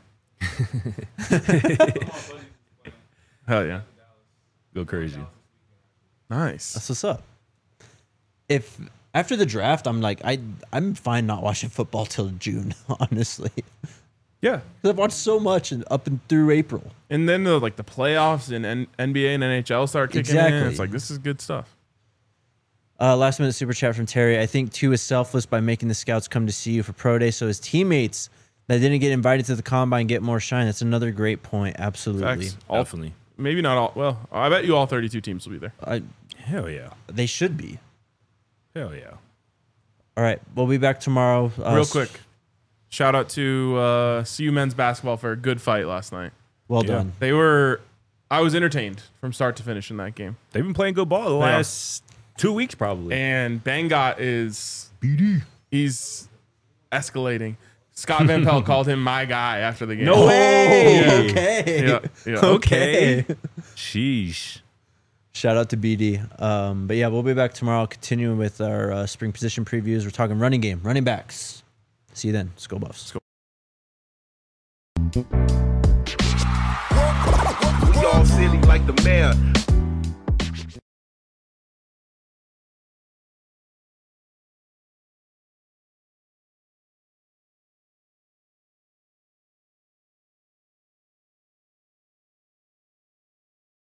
Hell yeah, go crazy. Nice. That's what's up. If after the draft, I'm like, I'm fine not watching football till June, honestly. Yeah, because I've watched so much up and through April. And then the playoffs and NBA and NHL start kicking in. It's like, this is good stuff. Last minute super chat from Terry. I think 2 is selfless by making the scouts come to see you for pro day, so his teammates that didn't get invited to the combine get more shine. That's another great point. Absolutely, Definitely. Maybe not all. Well, I bet you all 32 teams will be there. Hell yeah, they should be. Hell yeah. All right, we'll be back tomorrow. Real quick, shout out to CU men's basketball for a good fight last night. Well done. I was entertained from start to finish in that game. They've been playing good ball the last 2 weeks probably. And Bangot is BD. He's escalating. Scott Van Pelt called him my guy after the game. No way. Oh, okay. Yeah. Okay. Sheesh. Shout out to BD. But yeah, we'll be back tomorrow continuing with our spring position previews. We're talking running game, running backs. See you then. Skol Buffs. Let's go. all silly like the mayor.